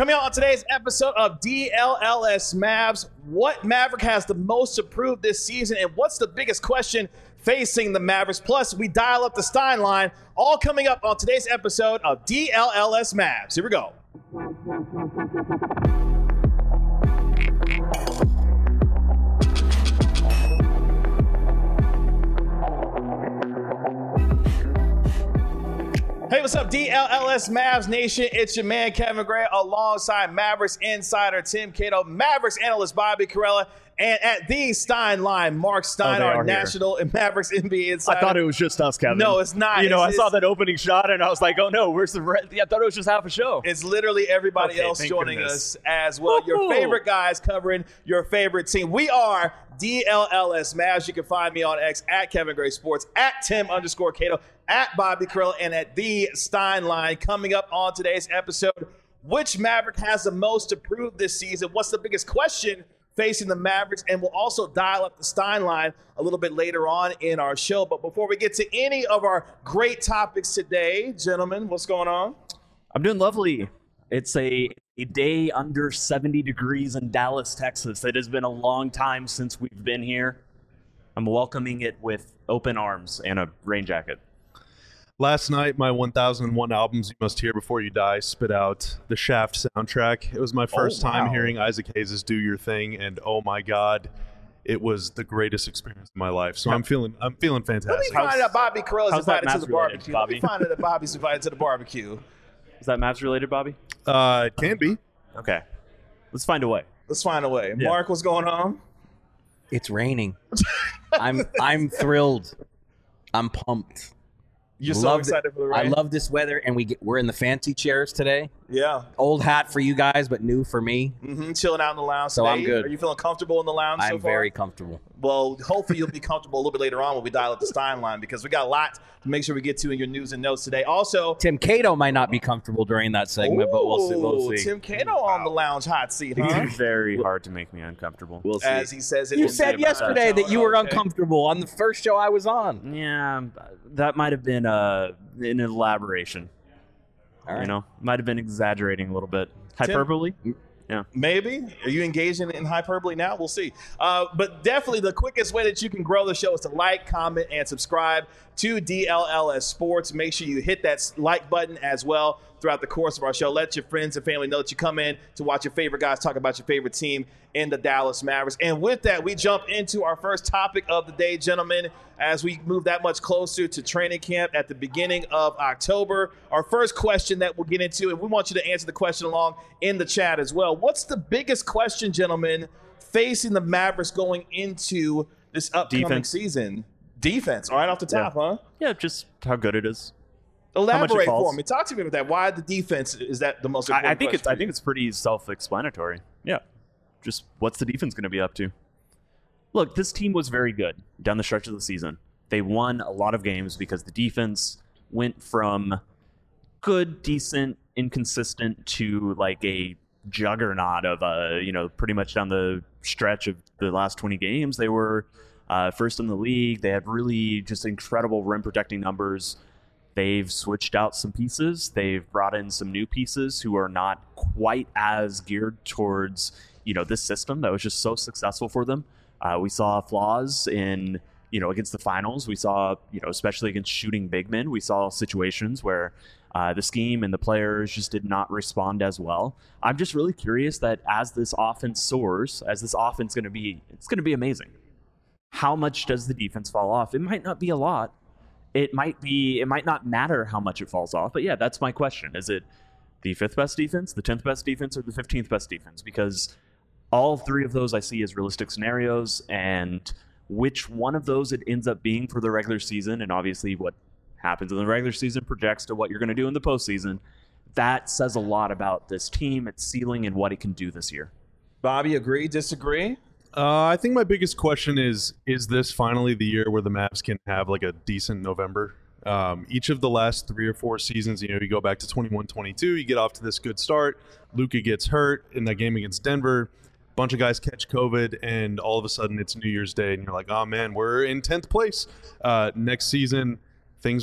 Coming out on today's episode of DLLS Mavs, what Maverick has the most to prove this season, and what's the biggest question facing the Mavericks? Plus, we dial up the Stein line, all coming up on today's episode of DLLS Mavs. Here we go. Hey, what's up, DLLS Mavs Nation? It's your man, Kevin Gray, alongside Mavericks insider Tim Cato, Mavericks analyst Bobby Karalla, and at the Stein line, Mark Stein, our national and Mavericks NBA insider. I thought it was just us, Kevin. No, it's not. I saw that opening shot, and I was like, oh, no, where's the rest? I thought it was just half a show. It's literally everybody else joining us as well. Your favorite guys covering your favorite team. We are DLLS Mavs. You can find me on X at Kevin Gray Sports, at Tim_Cato, at Bobby Karalla, and at the Stein line. Coming up on today's episode, which Maverick has the most to prove this season? What's the biggest question facing the Mavericks? And we'll also dial up the Stein line a little bit later on in our show. But before we get to any of our great topics today, gentlemen, what's going on? I'm doing lovely. It's a day under 70 degrees in Dallas, Texas. It has been a long time since we've been here. I'm welcoming it with open arms and a rain jacket. Last night, my 1001 albums you must hear before you die spit out the Shaft soundtrack. It was my first time hearing Isaac Hayes' Do Your Thing, and oh my God, it was the greatest experience of my life. So I'm feeling fantastic. Let me find out Bobby Karella's invited to the barbecue. Bobby? Let me find out that Bobby's invited to the barbecue. Is that Mavs related, Bobby? It can be. Okay. Let's find a way. Let's find a way. Yeah. Mark, what's going on? It's raining. I'm thrilled. I'm pumped. You're so excited for the rain. I love this weather, and we're in the fancy chairs today. Yeah. Old hat for you guys, but new for me. Mm-hmm. Chilling out in the lounge So today. I'm good. Are you feeling comfortable in the lounge so far? I'm very comfortable. Well, hopefully you'll be comfortable a little bit later on when we dial up the Stein line, because we got a lot to make sure we get to in your news and notes today. Also, Tim Cato might not be comfortable during that segment, but we'll see. Tim Cato on the lounge hot seat, huh? It's very hard to make me uncomfortable. We'll see. As he says it. You in said the- yesterday that you were Okay. uncomfortable on the first show I was on. Yeah, that might have been an elaboration. All right. Might have been exaggerating a little bit. Hyperbole? Yeah. Maybe. Are you engaging in hyperbole now? We'll see. But definitely the quickest way that you can grow the show is to like, comment, and subscribe to DLLS Sports. Make sure you hit that like button as well throughout the course of our show. Let your friends and family know that you come in to watch your favorite guys talk about your favorite team in the Dallas Mavericks. And with that, we jump into our first topic of the day, gentlemen, as we move that much closer to training camp at the beginning of October. Our first question that we'll get into, and we want you to answer the question along in the chat as well. What's the biggest question, gentlemen, facing the Mavericks going into this upcoming season? Defense, right off the top, huh? Yeah, just how good it is. Elaborate for me. Talk to me about that. Why the defense is that the most important question? I think it's pretty self-explanatory. Yeah. Just what's the defense going to be up to? Look, this team was very good down the stretch of the season. They won a lot of games because the defense went from good, decent, inconsistent to like a juggernaut of pretty much down the stretch of the last 20 games. They were first in the league. They had really just incredible rim protecting numbers. They've switched out some pieces. They've brought in some new pieces who are not quite as geared towards, this system that was just so successful for them. We saw flaws in, against the finals. We saw, especially against shooting big men, we saw situations where the scheme and the players just did not respond as well. I'm just really curious that as this offense soars, as this offense it's going to be amazing. How much does the defense fall off? It might not be a lot. It might not matter how much it falls off, but yeah, that's my question. Is it the 5th best defense, the 10th best defense, or the 15th best defense? Because all three of those I see as realistic scenarios, and which one of those it ends up being for the regular season, and obviously what happens in the regular season projects to what you're going to do in the postseason, that says a lot about this team, its ceiling, and what it can do this year. Bobby, agree, disagree? I think my biggest question is this finally the year where the Mavs can have like a decent November? Each of the last 3 or 4 seasons, you go back to 21-22, you get off to this good start. Luka gets hurt in that game against Denver. A bunch of guys catch COVID, and all of a sudden it's New Year's Day, and you're like, oh man, we're in 10th place. Next season, things went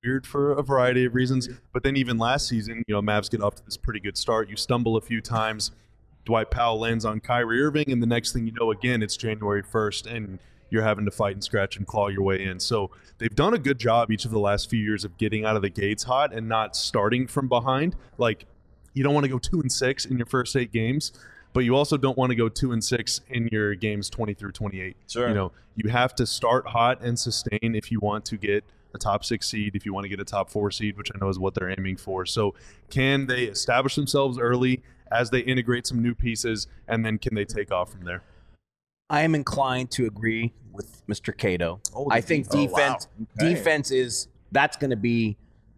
weird for a variety of reasons. But then even last season, Mavs get off to this pretty good start. You stumble a few times. Dwight Powell lands on Kyrie Irving, and the next thing you know, again, it's January 1st, and you're having to fight and scratch and claw your way in. So they've done a good job each of the last few years of getting out of the gates hot and not starting from behind. Like, you don't want to go 2-6 in your first 8 games, but you also don't want to go 2-6 in your games 20 through 28. Sure. You have to start hot and sustain if you want to get a top 6 seed, if you want to get a top 4 seed, which I know is what they're aiming for. So can they establish themselves early as they integrate some new pieces, and then can they take off from there? I am inclined to agree with Mr. Cato. I think defense is that's going to be.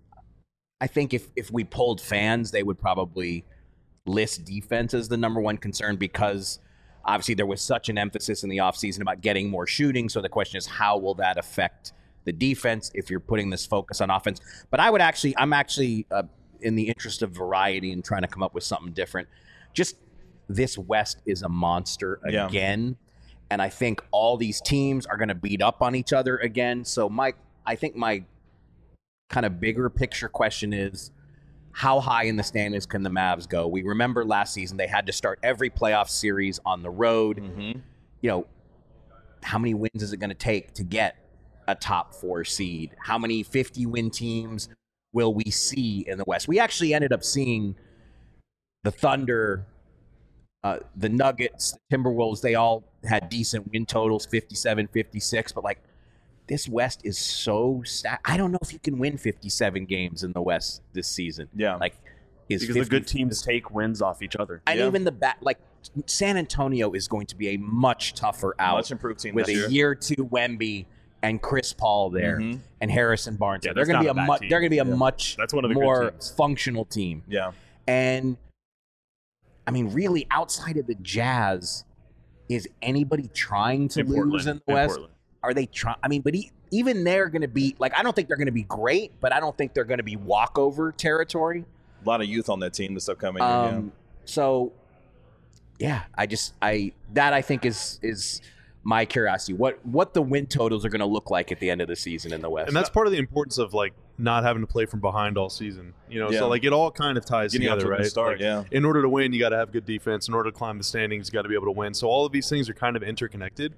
I think if we polled fans, they would probably list defense as the number one concern because obviously there was such an emphasis in the offseason about getting more shooting. So the question is, how will that affect the defense if you're putting this focus on offense? But I'm actually in the interest of variety and trying to come up with something different. Just this West is a monster again. And I think all these teams are going to beat up on each other again. So I think my kind of bigger picture question is, how high in the standings can the Mavs go? We remember last season they had to start every playoff series on the road. Mm-hmm. How many wins is it going to take to get a top 4 seed? How many 50-win teams will we see in the West? We actually ended up seeing the Thunder, the Nuggets, the Timberwolves. They all had decent win totals, 57, 56, but this West is so stacked. I don't know if you can win 57 games in the West this season. Yeah. Because the good teams take wins off each other. And even San Antonio is going to be a much tougher out. Much improved team with this year. a year 2 Wemby and Chris Paul there and Harrison Barnes. Yeah, they're going to be a much That's one of the more good teams. functional team. Yeah. And I mean, really, outside of the Jazz, is anybody trying to lose in the West? Portland. Are they trying? I mean, but even they're going to be I don't think they're going to be great, but I don't think they're going to be walkover territory. A lot of youth on that team this upcoming year. So, yeah, I think is my curiosity. What the win totals are going to look like at the end of the season in the West. And that's part of the importance of not having to play from behind all season. So it all kind of ties Getting together, right? Start, In order to win, you got to have good defense. In order to climb the standings, you got to be able to win. So all of these things are kind of interconnected.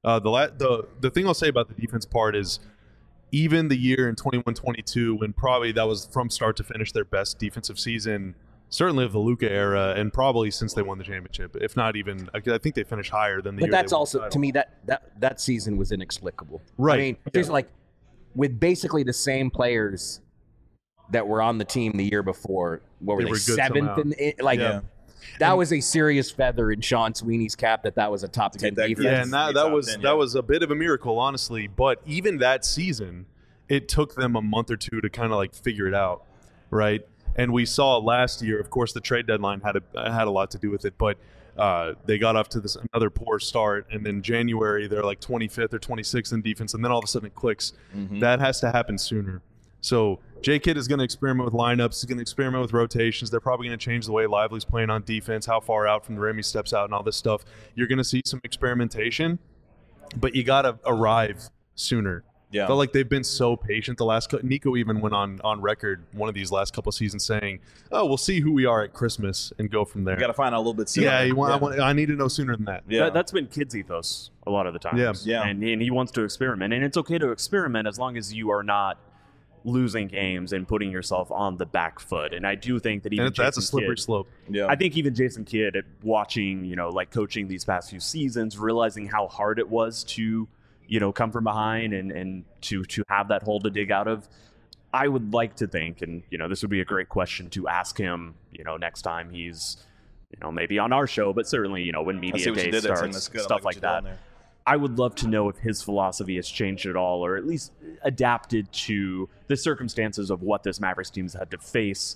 The thing I'll say about the defense part is, even the year in 21-22, when probably that was from start to finish their best defensive season, certainly of the Luka era, and probably since they won the championship, if not even, I think they finished higher than the year. But that's they won also, the title. to me, that season was inexplicable. Right. I mean, there's with basically the same players that were on the team the year before. What were they, were good 7th? somehow. That was a serious feather in Sean Sweeney's cap that was a top 10 defense. Yeah, and that was a bit of a miracle, honestly. But even that season, it took them a month or two to kind of figure it out, right? And we saw last year, of course, the trade deadline had a lot to do with it, but they got off to another poor start, and then January they're 25th or 26th in defense, and then all of a sudden it clicks. Mm-hmm. That has to happen sooner. So J-Kidd is going to experiment with lineups. He's going to experiment with rotations. They're probably going to change the way Lively's playing on defense, how far out from the rim he steps out, and all this stuff. You're going to see some experimentation, but you got to arrive sooner. Yeah. Felt like they've been so patient the last – Nico even went on record one of these last couple of seasons saying, oh, we'll see who we are at Christmas and go from there. You got to find out a little bit sooner. Yeah, I need to know sooner than that. Yeah. That's been Kidd's ethos a lot of the times. Yeah. And he wants to experiment. And it's okay to experiment as long as you are not losing games and putting yourself on the back foot. And I do think that even that's a slippery slope. Yeah. I think even Jason Kidd, watching, coaching these past few seasons, realizing how hard it was to – come from behind and to have that hole to dig out of. I would like to think, and this would be a great question to ask him, next time he's, maybe on our show, but certainly, when media day starts, stuff like that. I would love to know if his philosophy has changed at all, or at least adapted to the circumstances of what this Mavericks team's had to face,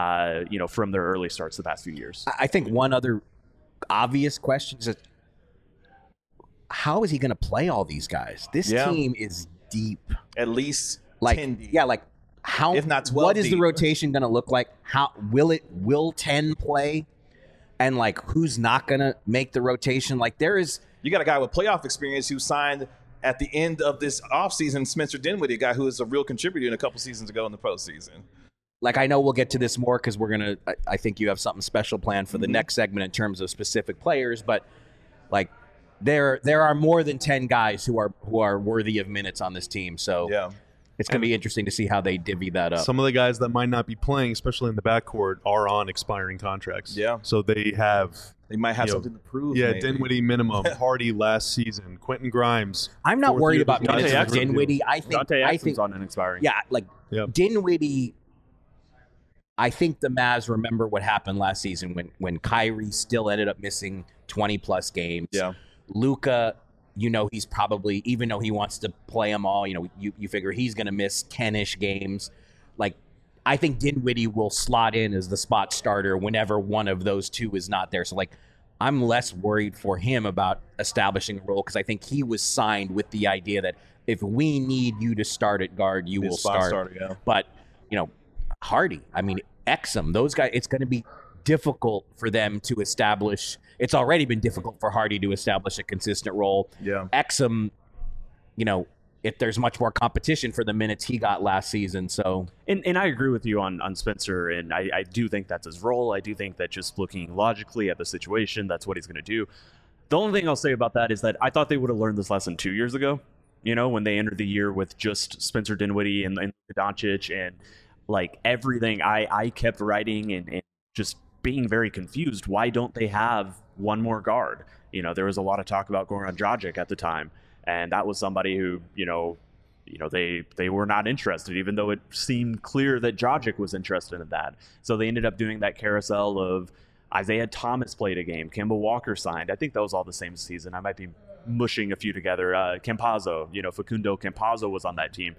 from their early starts the past few years. I think one other obvious question is, how is he going to play all these guys? This team is deep. At least 10 deep. Yeah, how, if not 12 what is deep. the rotation going to look like? How will 10 play? And who's not going to make the rotation? You got a guy with playoff experience who signed at the end of this offseason Spencer Dinwiddie, a guy who is a real contributor in a couple seasons ago in the postseason. Like, I know we'll get to this more because I think you have something special planned for the next segment in terms of specific players, but like there are more than 10 guys who are worthy of minutes on this team. So yeah. It's going to be interesting to see how they divvy that up. Some of the guys that might not be playing, especially in the backcourt, are on expiring contracts. Yeah. So they might have something to prove. Yeah, maybe. Dinwiddie minimum, Hardy last season, Quentin Grimes. I'm not worried about Dante minutes of Dinwiddie. I think on an expiring. Yeah, like Dinwiddie. I think the Mavs remember what happened last season when Kyrie still ended up missing 20+ games. Yeah. Luka, he's probably, even though he wants to play them all, you figure he's going to miss 10-ish games. Like, I think Dinwiddie will slot in as the spot starter whenever one of those two is not there. So, like, I'm less worried for him about establishing a role because I think he was signed with the idea that if we need you to start at guard, you will start. Starter, yeah. But, Hardy, Exum, those guys, it's going to be difficult for them to establish. It's already been difficult for Hardy to establish a consistent role. Yeah. Exum, if there's much more competition for the minutes he got last season. So, and I agree with you on Spencer, and I do think that's his role. I do think that just looking logically at the situation, that's what he's going to do. The only thing I'll say about that is that I thought they would have learned this lesson 2 years ago, when they entered the year with just Spencer Dinwiddie and Doncic and like everything. I kept writing and just being very confused. Why don't they have one more guard? There was a lot of talk about Goran Dragic at the time, and that was somebody who, they were not interested, even though it seemed clear that Dragic was interested in that. So they ended up doing that carousel of Isaiah Thomas played a game, Kemba Walker signed. I think that was all the same season. I might be mushing a few together. Campazzo, Facundo Campazzo was on that team.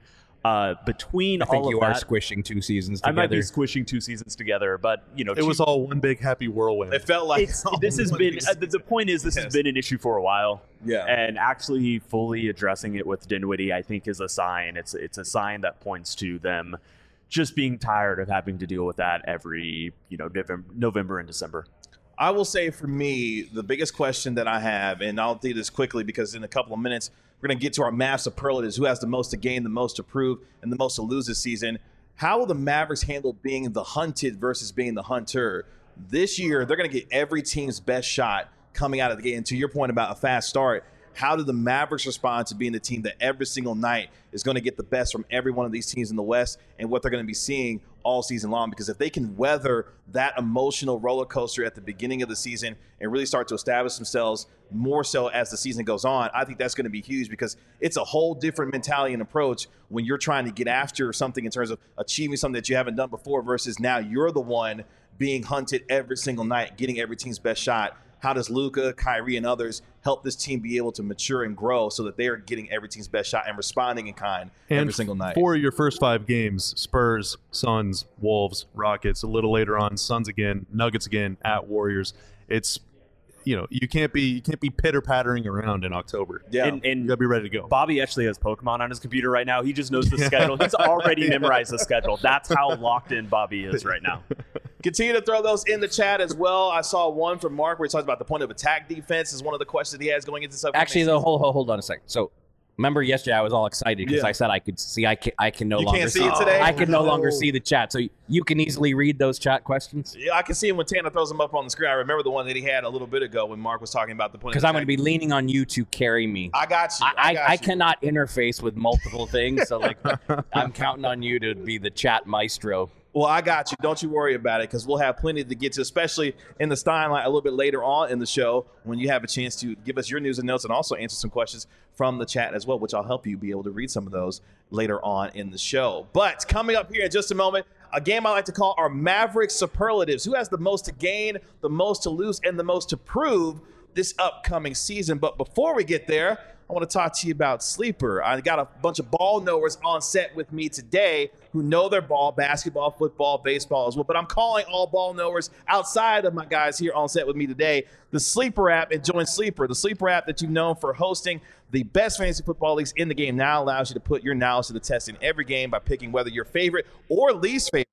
Between I think all you of are that, squishing 2 seasons together. I might be squishing 2 seasons together, but it was all one big happy whirlwind. It felt like this has been the point is this has been an issue for a while. Yeah, and actually fully addressing it with Dinwiddie, I think, is a sign. It's a sign that points to them just being tired of having to deal with that every November and December. I will say for me, the biggest question that I have, and I'll do this quickly because in a couple of minutes, we're going to get to our Mavs superlatives, who has the most to gain, the most to prove, and the most to lose this season. How will the Mavericks handle being the hunted versus being the hunter? This year, they're going to get every team's best shot coming out of the gate. And to your point about a fast start, how do the Mavericks respond to being the team that every single night is going to get the best from every one of these teams in the West and what they're going to be seeing all season long? Because if they can weather that emotional roller coaster at the beginning of the season and really start to establish themselves more so as the season goes on, I think that's going to be huge because it's a whole different mentality and approach when you're trying to get after something in terms of achieving something that you haven't done before versus now you're the one being hunted every single night, getting every team's best shot. How does Luka, Kyrie, and others help this team be able to mature and grow so that they are getting every team's best shot and responding in kind every single night? For your first 5 games, Spurs, Suns, Wolves, Rockets, a little later on, Suns again, Nuggets again, at Warriors. It's you can't be pitter-pattering around in October. Yeah. And you gotta be ready to go. Bobby actually has Pokemon on his computer right now. He just knows the schedule. He's already memorized the schedule. That's how locked in Bobby is right now. Continue to throw those in the chat as well. I saw one from Mark where he talks about the point of attack defense is one of the questions he has going into this. Actually, though, hold on a second. So, remember yesterday I was all excited because I said I could see. I can no longer see it today. I can no longer see the chat. So you can easily read those chat questions. Yeah, I can see him when Tanner throws them up on the screen. I remember the one that he had a little bit ago when Mark was talking about the point. Because I'm going to be leaning on you to carry me. I got you. I cannot interface with multiple things, so I'm counting on you to be the chat maestro. Well, I got you. Don't you worry about it because we'll have plenty to get to, especially in the Steinline a little bit later on in the show when you have a chance to give us your news and notes and also answer some questions from the chat as well, which I'll help you be able to read some of those later on in the show. But coming up here in just a moment, a game I like to call our Mavericks superlatives. Who has the most to gain, the most to lose, and the most to prove this upcoming season? But before we get there, I want to talk to you about Sleeper. I got a bunch of ball knowers on set with me today who know their ball, basketball, football, baseball as well. But I'm calling all ball knowers outside of my guys here on set with me today, the Sleeper app, and join Sleeper. The Sleeper app that you've known for hosting the best fantasy football leagues in the game now allows you to put your knowledge to the test in every game by picking whether your favorite or least favorite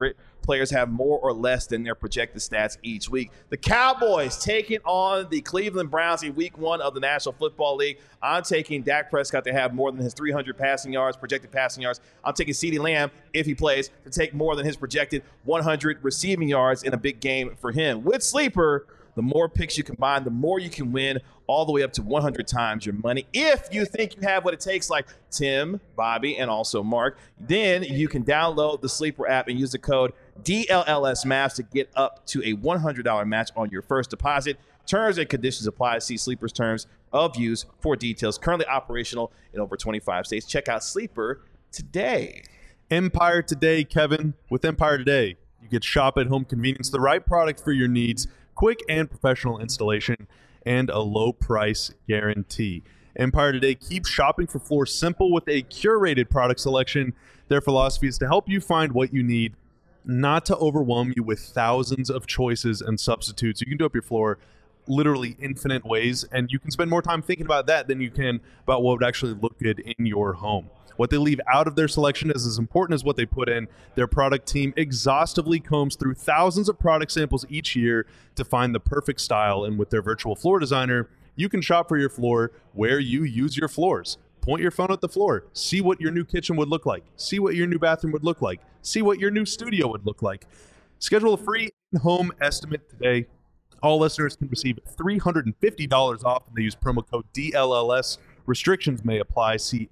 players have more or less than their projected stats each week. The Cowboys taking on the Cleveland Browns in week 1 of the National Football League. I'm taking Dak Prescott to have more than his 300 passing yards, projected passing yards. I'm taking CeeDee Lamb, if he plays, to take more than his projected 100 receiving yards in a big game for him. With Sleeper, the more picks you combine, the more you can win, all the way up to 100 times your money. If you think you have what it takes, like Tim, Bobby, and also Mark, then you can download the Sleeper app and use the code DLLSMAPS to get up to a $100 match on your first deposit. Terms and conditions apply. See Sleeper's terms of use for details. Currently operational in over 25 states. Check out Sleeper today. Empire Today, Kevin. With Empire Today, you get shop at home convenience, the right product for your needs, quick and professional installation, and a low price guarantee. Empire Today keeps shopping for floors simple with a curated product selection. Their philosophy is to help you find what you need, not to overwhelm you with thousands of choices and substitutes. You can do up your floor literally infinite ways, and you can spend more time thinking about that than you can about what would actually look good in your home. What they leave out of their selection is as important as what they put in. Their product team exhaustively combs through thousands of product samples each year to find the perfect style, and with their virtual floor designer, you can shop for your floor where you use your floors. Point your phone at the floor, see what your new kitchen would look like, see what your new bathroom would look like, see what your new studio would look like. Schedule a free home estimate today. All listeners can receive $350 off if they use promo code DLLS. Restrictions may apply. See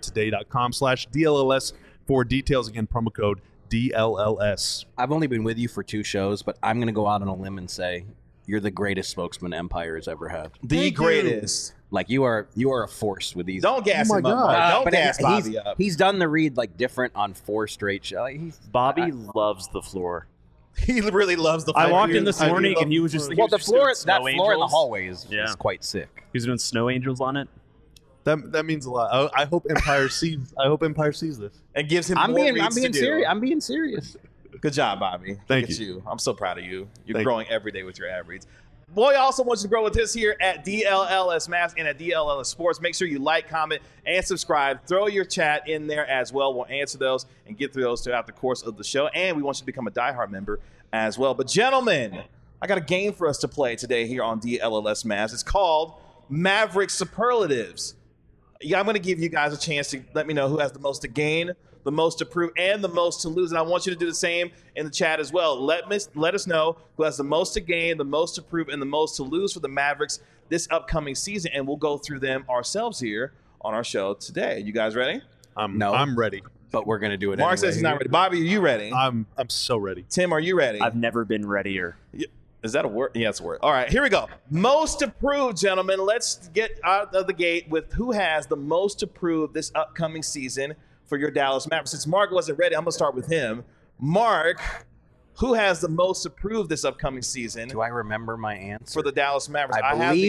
empiretoday.com/DLLS for details. Again, promo code DLLS. I've only been with you for 2 shows, but I'm going to go out on a limb and say you're the greatest spokesman Empire has ever had. The greatest. Like you are a force with these. Don't gas him up. Don't gas Bobby up. He's done the read like different on 4 straight shows. Bobby loves the floor. He really loves the floor. I walked in this morning and he was just Well, the floor, that that floor in the hallway is quite sick. He was doing snow angels on it. That means a lot. I hope Empire sees. I hope Empire sees this and gives him. I'm more being serious. I'm being serious. Good job, Bobby. Thank you. I'm so proud of you. You're growing every day with your ad reads. Boy also wants to grow with this here at DLLS Maps and at DLLS Sports. Make sure you like, comment, and subscribe. Throw your chat in there as well. We'll answer those and get through those throughout the course of the show. And we want you to become a diehard member as well. But gentlemen, I got a game for us to play today here on DLLS Maps. It's called Maverick Superlatives. I'm going to give you guys a chance to let me know who has the most to gain, the most to prove, and the most to lose. And I want you to do the same in the chat as well. Let us know who has the most to gain, the most to prove, and the most to lose for the Mavericks this upcoming season. And we'll go through them ourselves here on our show today. You guys ready? No, I'm ready. But we're going to do it Mark says he's not ready. Bobby, are you ready? I'm so ready. Tim, are you ready? I've never been readier. Is that a word? Yeah, it's a word. All right, here we go. Most to prove, gentlemen. Let's get out of the gate with who has the most to prove this upcoming season for your Dallas Mavericks. Since Mark wasn't ready, I'm going to start with him. Mark, who has the most to prove this upcoming season? Do I remember my answer? For the Dallas Mavericks.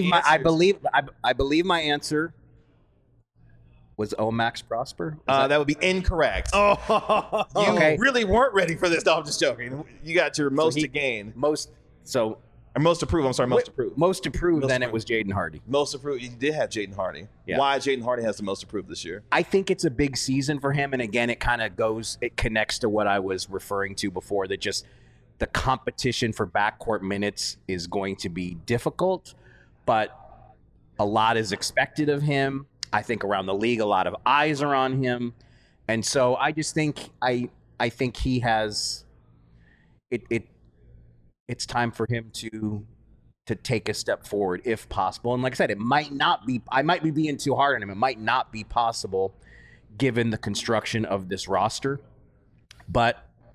I believe my answer was Max Prosper. That would be incorrect. You really weren't ready for this. No, I'm just joking. You got your most to gain. Most to prove. I'm sorry, most to prove. Most to prove, then it was Jaden Hardy. Most to prove. You did have Jaden Hardy. Yeah. Why Jaden Hardy has the most to prove this year? I think it's a big season for him. And again, it connects to what I was referring to before, that just the competition for backcourt minutes is going to be difficult, but a lot is expected of him. I think around the league, a lot of eyes are on him. And so I just think, I think he has it's time for him to take a step forward if possible. And like I said, I might be being too hard on him. It might not be possible given the construction of this roster. But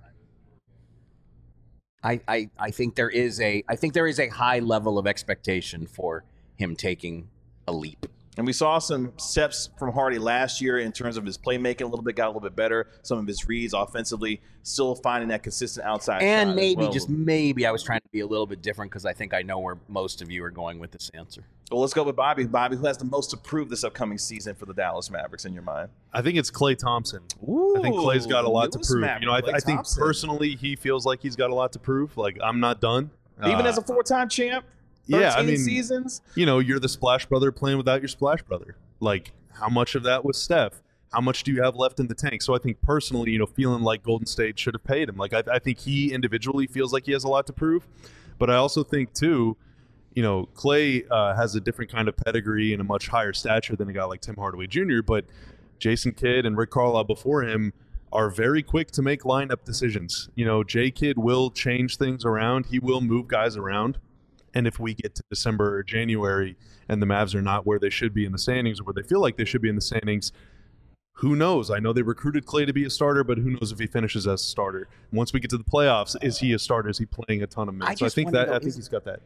I think there is a high level of expectation for him taking a leap. And we saw some steps from Hardy last year in terms of his playmaking got a little bit better. Some of his reads offensively, still finding that consistent outside shot. And maybe I was trying to be a little bit different because I think I know where most of you are going with this answer. Well, let's go with Bobby. Bobby, who has the most to prove this upcoming season for the Dallas Mavericks in your mind? I think it's Klay Thompson. Ooh, I think Klay's got a lot to prove. Maverick, I think personally he feels like he's got a lot to prove. Like, I'm not done. Even as a 4-time champ? 13 seasons? You're the Splash Brother playing without your Splash Brother. Like, how much of that was Steph? how much do you have left in the tank? So I think personally, feeling like Golden State should have paid him. Like I think he individually feels like he has a lot to prove, but I also think too, Clay has a different kind of pedigree and a much higher stature than a guy like Tim Hardaway Jr., but Jason Kidd and Rick Carlisle before him are very quick to make lineup decisions. J. Kidd will change things around. He will move guys around. And if we get to December or January and the Mavs are not where they should be in the standings or where they feel like they should be in the standings, who knows? I know they recruited Clay to be a starter, but who knows if he finishes as a starter. Once we get to the playoffs, is he a starter? Is he playing a ton of minutes? I think he's got that.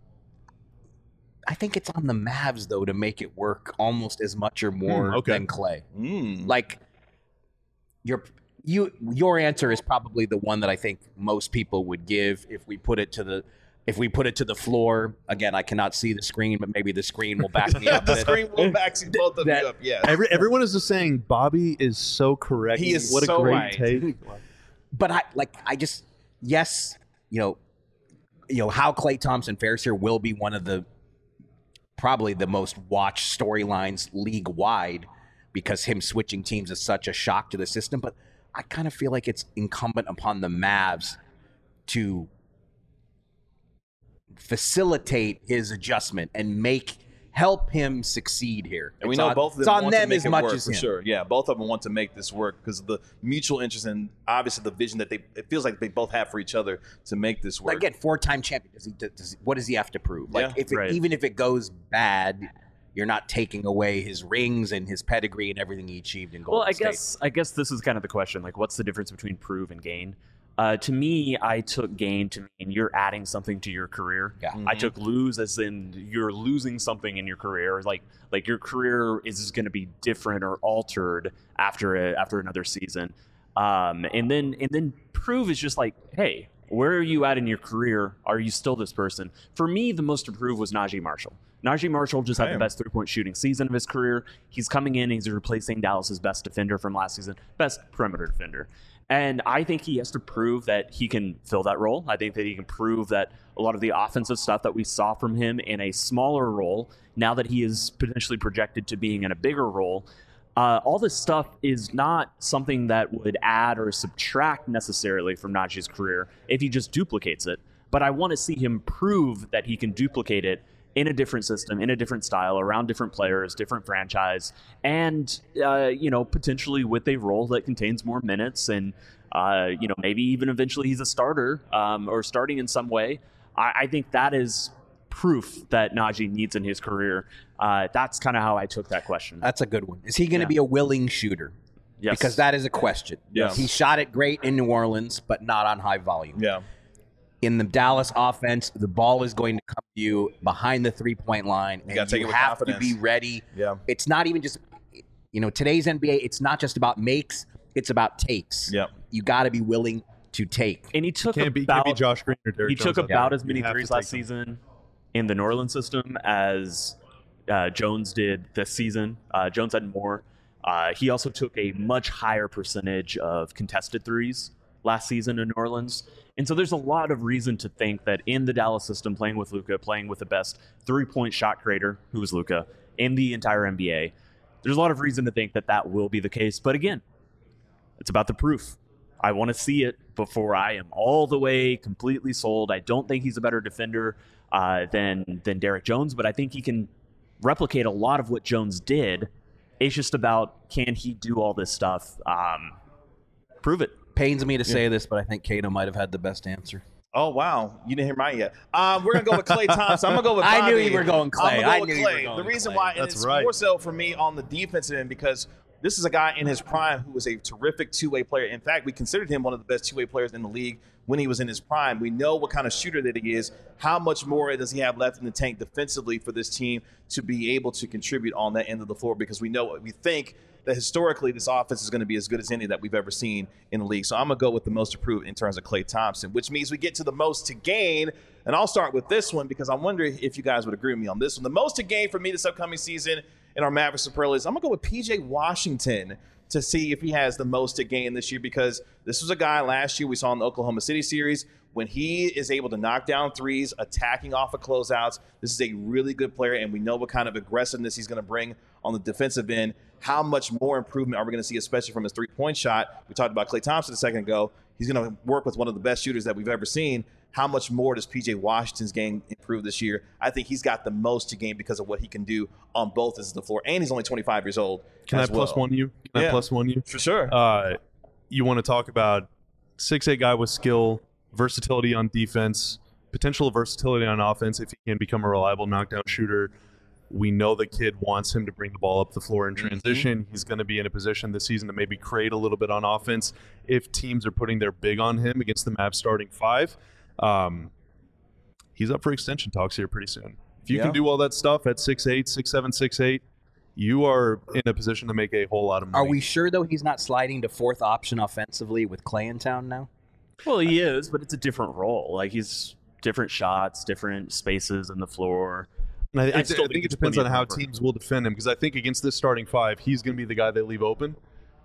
I think it's on the Mavs, though, to make it work almost as much or more than Clay. Like, your answer is probably the one that I think most people would give if we put it to the floor. Again, I cannot see the screen, but maybe the screen will back me up. The screen will back both of you up, yeah. Everyone is just saying Bobby is so correct. He is what so a great right. take. But how Klay Thompson fares here will be one of probably the most watched storylines league-wide because him switching teams is such a shock to the system. But I kind of feel like it's incumbent upon the Mavs to facilitate his adjustment and help him succeed here. And we know both of them it's on want them to make as it much work, as for him. sure. Yeah, both of them want to make this work because of the mutual interest and obviously the vision that it feels like they both have for each other to make this work. Again, 4-time champion. What does he have to prove? Like, Yeah. even if it goes bad, you're not taking away his rings and his pedigree and everything he achieved in Golden State. I guess this is kind of the question. Like, what's the difference between prove and gain? To me, I took gain to mean you're adding something to your career. Yeah. I took lose as in you're losing something in your career. Like your career is going to be different or altered after another season. And then prove is just like, hey, where are you at in your career? Are you still this person? For me, the most to prove was Najee Marshall. Najee Marshall just had the best three-point shooting season of his career. He's coming in, he's replacing Dallas's best defender from last season, best perimeter defender. And I think he has to prove that he can fill that role. I think that he can prove that a lot of the offensive stuff that we saw from him in a smaller role, now that he is potentially projected to being in a bigger role, all this stuff is not something that would add or subtract necessarily from Najee's career if he just duplicates it. But I want to see him prove that he can duplicate it in a different system, in a different style, around different players, different franchise, and potentially with a role that contains more minutes, and maybe even eventually he's a starter or starting in some way. I think that is proof that Najee needs in his career. That's kind of how I took that question. That's a good one. Is he going to be a willing shooter? Yes. Because that is a question. Yes. He shot it great in New Orleans, but not on high volume. Yeah. In the Dallas offense, the ball is going to come to you behind the three-point line, and you have to be ready. Yeah. It's not even just, today's NBA, it's not just about makes, it's about takes. Yeah. You got to be willing to take. And he took Can't be Josh Green or Derrick Jones. He took about as many You have threes to last take them. season in the New Orleans system as Jones did this season. Jones had more. He also took a much higher percentage of contested threes last season in New Orleans. And so there's a lot of reason to think that in the Dallas system, playing with Luka, playing with the best three-point shot creator, who is Luka, in the entire NBA, there's a lot of reason to think that that will be the case. But again, it's about the proof. I want to see it before I am all the way completely sold. I don't think he's a better defender than Derrick Jones, but I think he can replicate a lot of what Jones did. It's just about, can he do all this stuff? Prove it. Pains me to say this, but I think Kato might have had the best answer. Oh, wow. You didn't hear mine yet. We're going to go with Klay Thompson. I'm going to go with Bobby. I knew you were going Klay. I'm going to go with Klay. The reason why, and it's more so for me on the defensive end, because this is a guy in his prime who was a terrific two-way player. In fact, we considered him one of the best two-way players in the league when he was in his prime. We know what kind of shooter that he is. How much more does he have left in the tank defensively for this team to be able to contribute on that end of the floor? Because we think that historically this offense is going to be as good as any that we've ever seen in the league. So I'm going to go with the most improved in terms of Klay Thompson, which means we get to the most to gain. And I'll start with this one because I wonder if you guys would agree with me on this one. The most to gain for me this upcoming season in our Mavericks Superlatives, I'm going to go with P.J. Washington to see if he has the most to gain this year, because this was a guy last year we saw in the Oklahoma City series when he is able to knock down threes, attacking off of closeouts, this is a really good player, and we know what kind of aggressiveness he's going to bring on the defensive end. How much more improvement are we going to see, especially from his three-point shot? We talked about Klay Thompson a second ago. He's going to work with one of the best shooters that we've ever seen. How much more does P.J. Washington's game improve this year? I think he's got the most to gain because of what he can do on both ends of the floor, and he's only 25 years old. Can I plus one you? Can I plus one you? For sure. You want to talk about 6'8" guy with skill, versatility on defense, potential versatility on offense if he can become a reliable knockdown shooter. We know the kid wants him to bring the ball up the floor in transition. Mm-hmm. He's going to be in a position this season to maybe create a little bit on offense if teams are putting their big on him against the Mavs starting five. He's up for extension talks here pretty soon. If you can do all that stuff at 6'8", 6'7", 6'8", you are in a position to make a whole lot of money. Are we sure, though, he's not sliding to fourth option offensively with Klay in town now? Well, he is, but it's a different role. Like, he's different shots, different spaces in the floor. And I think it depends on how teams will defend him, because I think against this starting five, he's going to be the guy they leave open,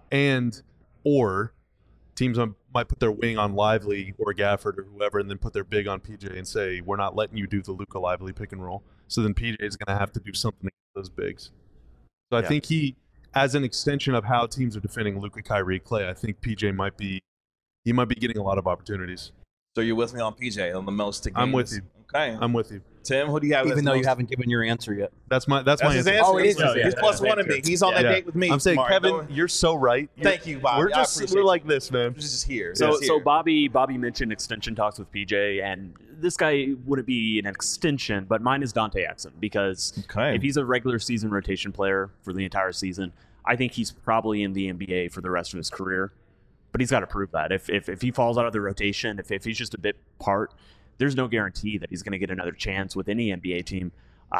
or teams might put their wing on Lively or Gafford or whoever, and then put their big on PJ and say, we're not letting you do the Luka Lively pick and roll. So then PJ is going to have to do something against those bigs. So I think he, as an extension of how teams are defending Luka, Kyrie, Klay, I think PJ might be getting a lot of opportunities. So you're with me on PJ on the most to gain. I'm with you. Okay. I'm with you. Tim, who do you have? Even though you haven't given your answer yet. That's my his answer. Oh, it is. He's plus one of me. He's on that date with me. I'm saying, Mark. Kevin, you're so right. Thank you, Bobby. We're like this, man. We're just here. So Bobby mentioned extension talks with PJ, and this guy wouldn't be an extension, but mine is Dante Exum, because if he's a regular season rotation player for the entire season, I think he's probably in the NBA for the rest of his career. But he's got to prove that. If he falls out of the rotation, if he's just a bit part, there's no guarantee that he's going to get another chance with any NBA team.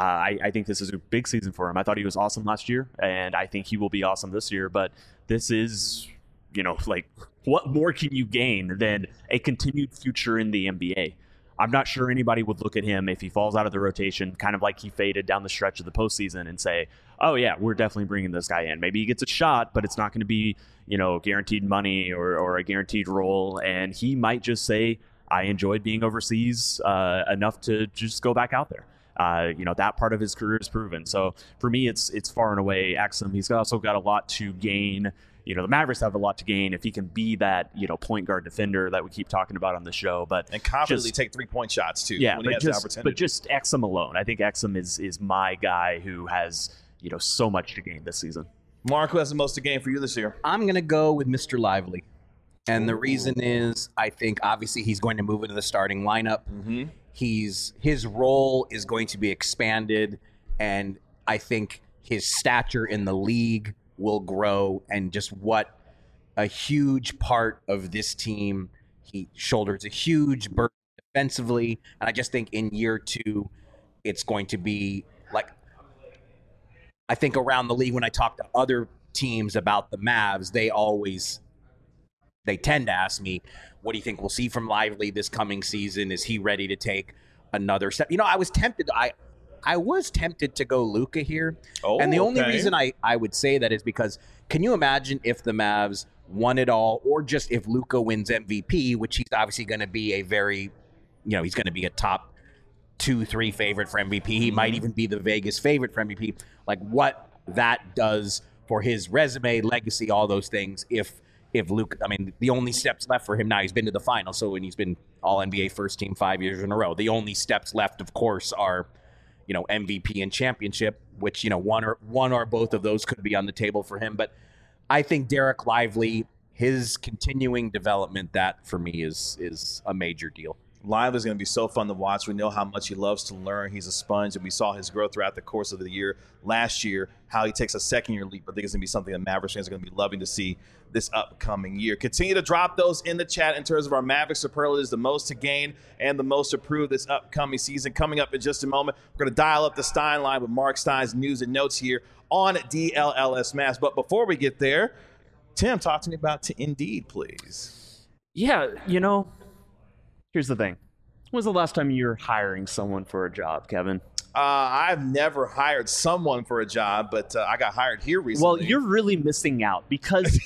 I think this is a big season for him. I thought he was awesome last year, and I think he will be awesome this year. But this is, like, what more can you gain than a continued future in the NBA? I'm not sure anybody would look at him if he falls out of the rotation, kind of like he faded down the stretch of the postseason, and say, oh, yeah, we're definitely bringing this guy in. Maybe he gets a shot, but it's not going to be, guaranteed money or a guaranteed role. And he might just say, I enjoyed being overseas enough to just go back out there. That part of his career is proven. So for me, it's far and away Exum. He's also got a lot to gain. The Mavericks have a lot to gain if he can be that, point guard defender that we keep talking about on the show. And confidently take 3-point shots, too, when he has the opportunity. But just Exum alone. I think Exum is my guy who has, so much to gain this season. Mark, who has the most to gain for you this year? I'm going to go with Mr. Lively. And the reason is, I think, obviously, he's going to move into the starting lineup. Mm-hmm. His role is going to be expanded, and I think his stature in the league will grow, and just what a huge part of this team. He shoulders a huge burden defensively, and I just think in year 2, it's going to be like, I think around the league when I talk to other teams about the Mavs, they tend to ask me, what do you think we'll see from Lively this coming season? Is he ready to take another step? I was tempted. I was tempted to go Luka here. And the only reason I would say that is because, can you imagine if the Mavs won it all, or just if Luka wins MVP, which he's obviously going to be a very, he's going to be a top 2-3 favorite for MVP. He might even be the Vegas favorite for MVP. Like, what that does for his resume, legacy, all those things. If Luka, the only steps left for him now, he's been to the final. So when he's been all NBA first team 5 years in a row, the only steps left, of course, are, MVP and championship, which, one or both of those could be on the table for him. But I think Derek Lively, his continuing development, that for me is a major deal. Lively's going to be so fun to watch. We know how much he loves to learn. He's a sponge, and we saw his growth throughout the course of the year last year, how he takes a second-year leap. I think it's going to be something that Mavericks fans are going to be loving to see this upcoming year. Continue to drop those in the chat in terms of our Mavericks superlatives, the most to gain and the most to prove this upcoming season. Coming up in just a moment, we're going to dial up the Stein line with Mark Stein's news and notes here on DLLS Mavs. But before we get there, Tim, talk to me about Indeed, please. Yeah, here's the thing. When was the last time you were hiring someone for a job, Kevin? I've never hired someone for a job, but I got hired here recently. Well, you're really missing out, because you could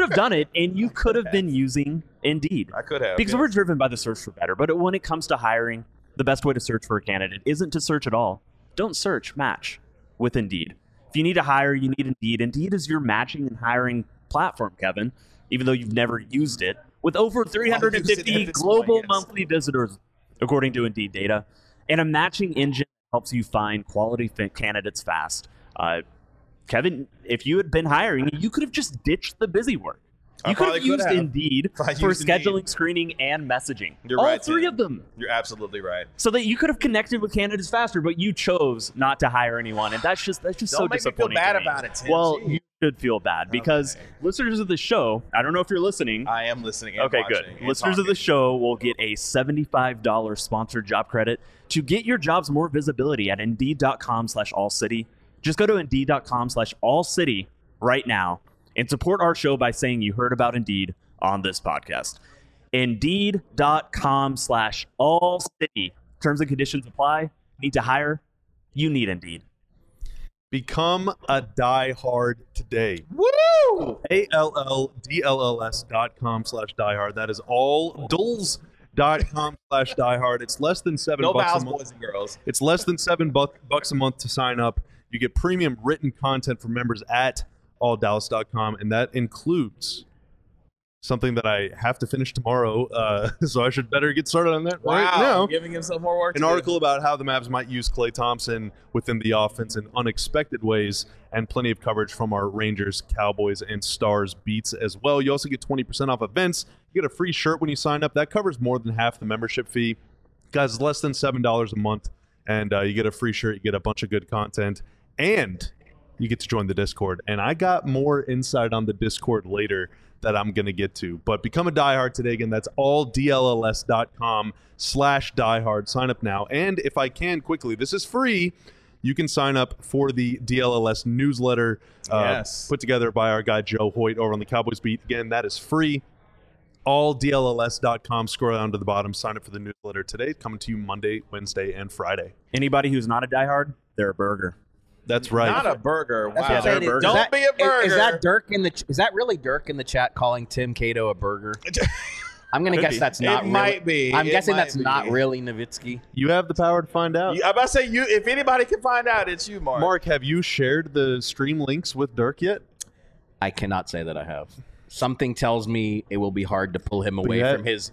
have done it, and you could have been using Indeed. I could have. Because yes. we're driven by the search for better. But when it comes to hiring, the best way to search for a candidate isn't to search at all. Don't search, match with Indeed. If you need to hire, you need Indeed. Indeed is your matching and hiring platform, Kevin, even though you've never used it, with over 350 global monthly visitors, according to Indeed data, and a matching engine that helps you find quality candidates fast. Kevin, if you had been hiring, you could have just ditched the busy work. You could have used Indeed for scheduling, screening, and messaging. You're all right, three of them. You're absolutely right. So that you could have connected with candidates faster, but you chose not to hire anyone, and that's just so disappointing. Don't make me feel bad about it, Tim. Well, you should feel bad because listeners of the show, I don't know if you're listening. I am listening and okay, watching. Good. Listeners of the show will get a $75 sponsored job credit to get your jobs more visibility at Indeed.com/allcity. Just go to Indeed.com/allcity right now and support our show by saying you heard about Indeed on this podcast. Indeed.com/allcity. Terms and conditions apply. Need to hire? You need Indeed. Become a diehard today. Woo! ALLDLLS.com/diehard. That is all dulls.com/diehard. It's less than $7 no bucks vows, a month. boys and girls. It's less than $7 a month to sign up. You get premium written content from members at alldallas.com, and that includes something that I have to finish tomorrow, so I should better get started on that right now. Giving himself more work. An article about how the Mavs might use Klay Thompson within the offense in unexpected ways, and plenty of coverage from our Rangers, Cowboys, and Stars beats as well. You also get 20% off events. You get a free shirt when you sign up. That covers more than half the membership fee. Guys, it's less than $7 a month, and you get a free shirt. You get a bunch of good content, and you get to join the Discord. And I got more insight on the Discord later that I'm going to get to. But become a diehard today. Again, that's all DLLS.com/diehard. Sign up now. And if I can quickly, this is free. You can sign up for the DLLS newsletter put together by our guy Joe Hoyt over on the Cowboys Beat. Again, that is free. All DLLS.com. Scroll down to the bottom. Sign up for the newsletter today. Coming to you Monday, Wednesday, and Friday. Anybody who's not a diehard, they're a burger. That's right. Not a burger. Wow. Yeah, they're a burger. Don't be a burger. Is that Dirk in the? Is that really Dirk in the chat calling Tim Cato a burger? I'm gonna guess that's not. It might be. I'm guessing that's be. not really Nowitzki. You have the power to find out. I'm about to say you. If anybody can find out, it's you, Mark. Mark, have you shared the stream links with Dirk yet? I cannot say that I have. Something tells me it will be hard to pull him away Yeah. from his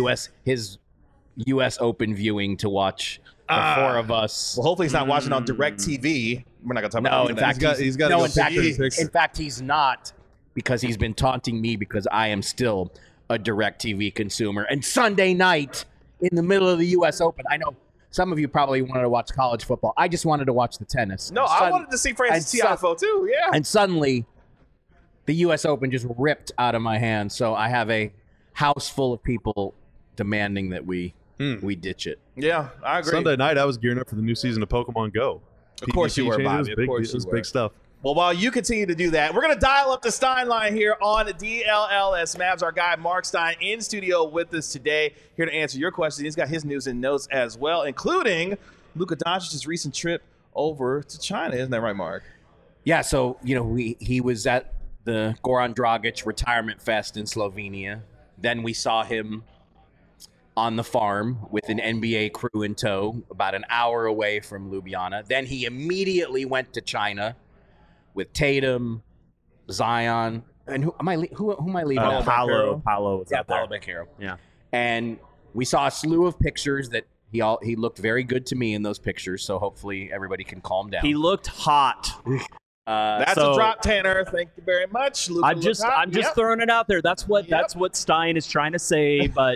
U.S. Open viewing to watch the four of us. Well, hopefully he's not watching on DirecTV. We're not gonna talk about No, that. in fact, he's got no. to In fact, he's not, because he's been taunting me because I am still a DirecTV consumer. And Sunday night in the middle of the U.S. Open, I know some of you probably wanted to watch college football. I just wanted to watch the tennis. No, I wanted to see Francis Tiafoe too. Yeah. And suddenly, the U.S. Open just ripped out of my hands. So I have a house full of people demanding that we ditch it. Yeah, I agree. Sunday night, I was gearing up for the new season of Pokemon Go. Of course you were, Bobby. Of course you It was were. big stuff. Well, while you continue to do that, we're going to dial up the Stein line here on DLLS Mavs. Our guy Mark Stein in studio with us today, here to answer your questions. He's got his news and notes as well, including Luka Doncic's recent trip over to China. Isn't that right, Mark? Yeah, so, he was at the Goran Dragic Retirement Fest in Slovenia. Then we saw him on the farm with an NBA crew in tow, about an hour away from Ljubljana. Then he immediately went to China with Tatum, Zion, and who am I leaving out? Paolo was Yeah, out there. Paolo Banchero. Yeah. And we saw a slew of pictures that he looked very good to me in those pictures, so hopefully everybody can calm down. He looked hot. That's So- a drop, Tanner. Thank you very much. Luka I'm just Yep. throwing it out there. That's what Stein is trying to say, but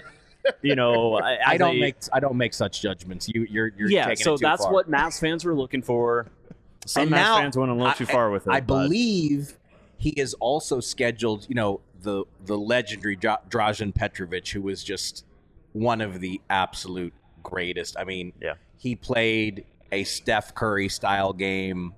I don't make such judgments. You're yeah. taking So it too that's far. what Mavs fans were looking for. Some And Mavs now, fans went a little too far with it. I but- believe he is also scheduled. The legendary Dražen Petrovic, who was just one of the absolute greatest. I mean, Yeah. he played a Steph Curry style game,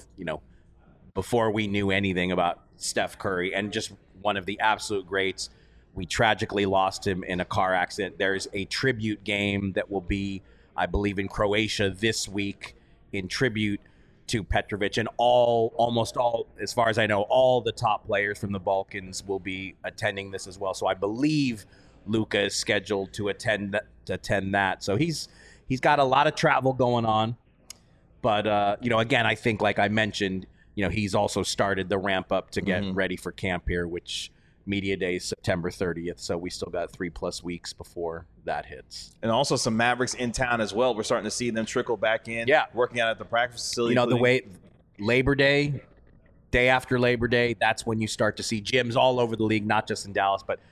before we knew anything about Steph Curry, and just one of the absolute greats. We tragically lost him in a car accident. There's a tribute game that will be, I believe, in Croatia this week in tribute to Petrovic, and almost all, as far as I know, all the top players from the Balkans will be attending this as well. So I believe Luka is scheduled to attend that. So he's got a lot of travel going on. But, again, I think, like I mentioned, he's also started the ramp up to get ready for camp here, which media day is September 30th. So we still got 3+ weeks before that hits. And also some Mavericks in town as well. We're starting to see them trickle back in. Yeah. Working out at the practice facility. The way Labor Day, day after Labor Day, that's when you start to see gyms all over the league, not just in Dallas, but,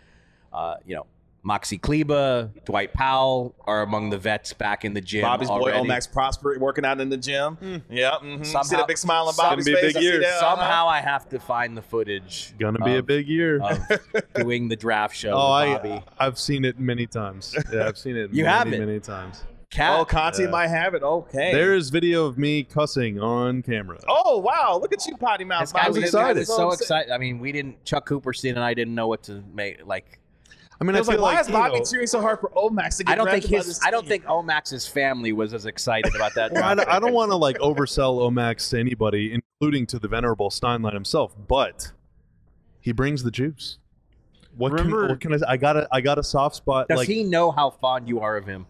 Maxi Kleba, Dwight Powell are among the vets back in the gym. Bobby's already. boy, Omax Prosper, working out in the gym. Yeah. Somehow, see that big smile on Bobby's Gonna be a face? big year. Somehow I have to find the footage. Gonna be a big year. Of doing the draft show Oh, with Bobby. I've seen it many times. Yeah, I've seen it You many, have it? many times. Oh, Conti might have it. Okay. There is video of me cussing on camera. Oh, wow. Look at you, potty mouth. This guy was excited. so excited. I mean, Chuck Cooperstein and I didn't know what to make. Like, I mean, I I was feel like, why is Bobby you know, cheering so hard for Omax to get drafted by this I don't team? think Omax's family was as excited about that. Well, draft I don't pick. want to like oversell Omax to anybody, including to the venerable Steinlein himself, but he brings the juice. What can I say? I got a soft spot. Does like he know how fond you are of him?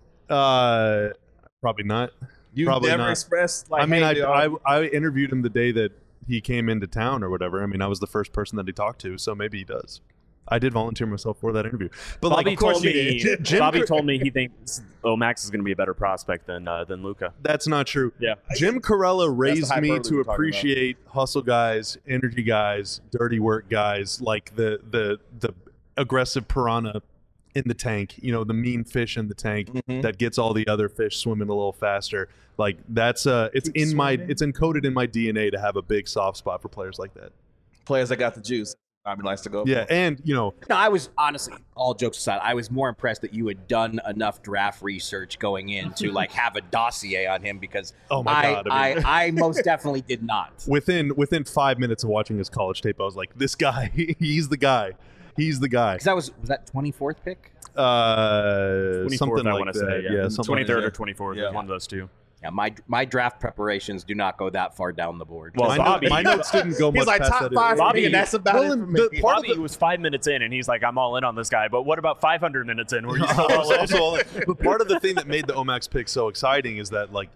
probably not. You've Probably never not. expressed like. I mean, hey, dude, I interviewed him the day that he came into town or whatever. I mean, I was the first person that he talked to, so maybe he does. I did volunteer myself for that interview. But Bobby like, of course told me. you did. Bobby told me he thinks Omax is going to be a better prospect than Luka. That's not true. Yeah. Jim Corella raised me hyperbole to we're talking appreciate hustle guys, energy guys, dirty work guys, like the aggressive piranha in the tank, the mean fish in the tank that gets all the other fish swimming a little faster. Like that's it's encoded in my DNA to have a big soft spot for players like that. players that got the juice. Bobby likes to go. Yeah, for. and No, I was honestly, all jokes aside, I was more impressed that you had done enough draft research going in to like have a dossier on him because Oh my God, I mean- I most definitely did not. within 5 minutes of watching his college tape, I was like, this guy, he's the guy. He's the guy. Because that was that 24th pick? 24th, Something I like want to that. say. Yeah, something like 23rd that. or 24th. Yeah. One of those two. Yeah, my draft preparations do not go that far down the board. Well, Bobby- My notes didn't go much He's like past top that. 5 for Bobby- me, and that's about Well, it for and me. the part of Bobby was 5 minutes in, and he's like, "I'm all in on this guy." But what about 500 minutes in? Were you still all in? But part of the thing that made the Omax pick so exciting is that, like,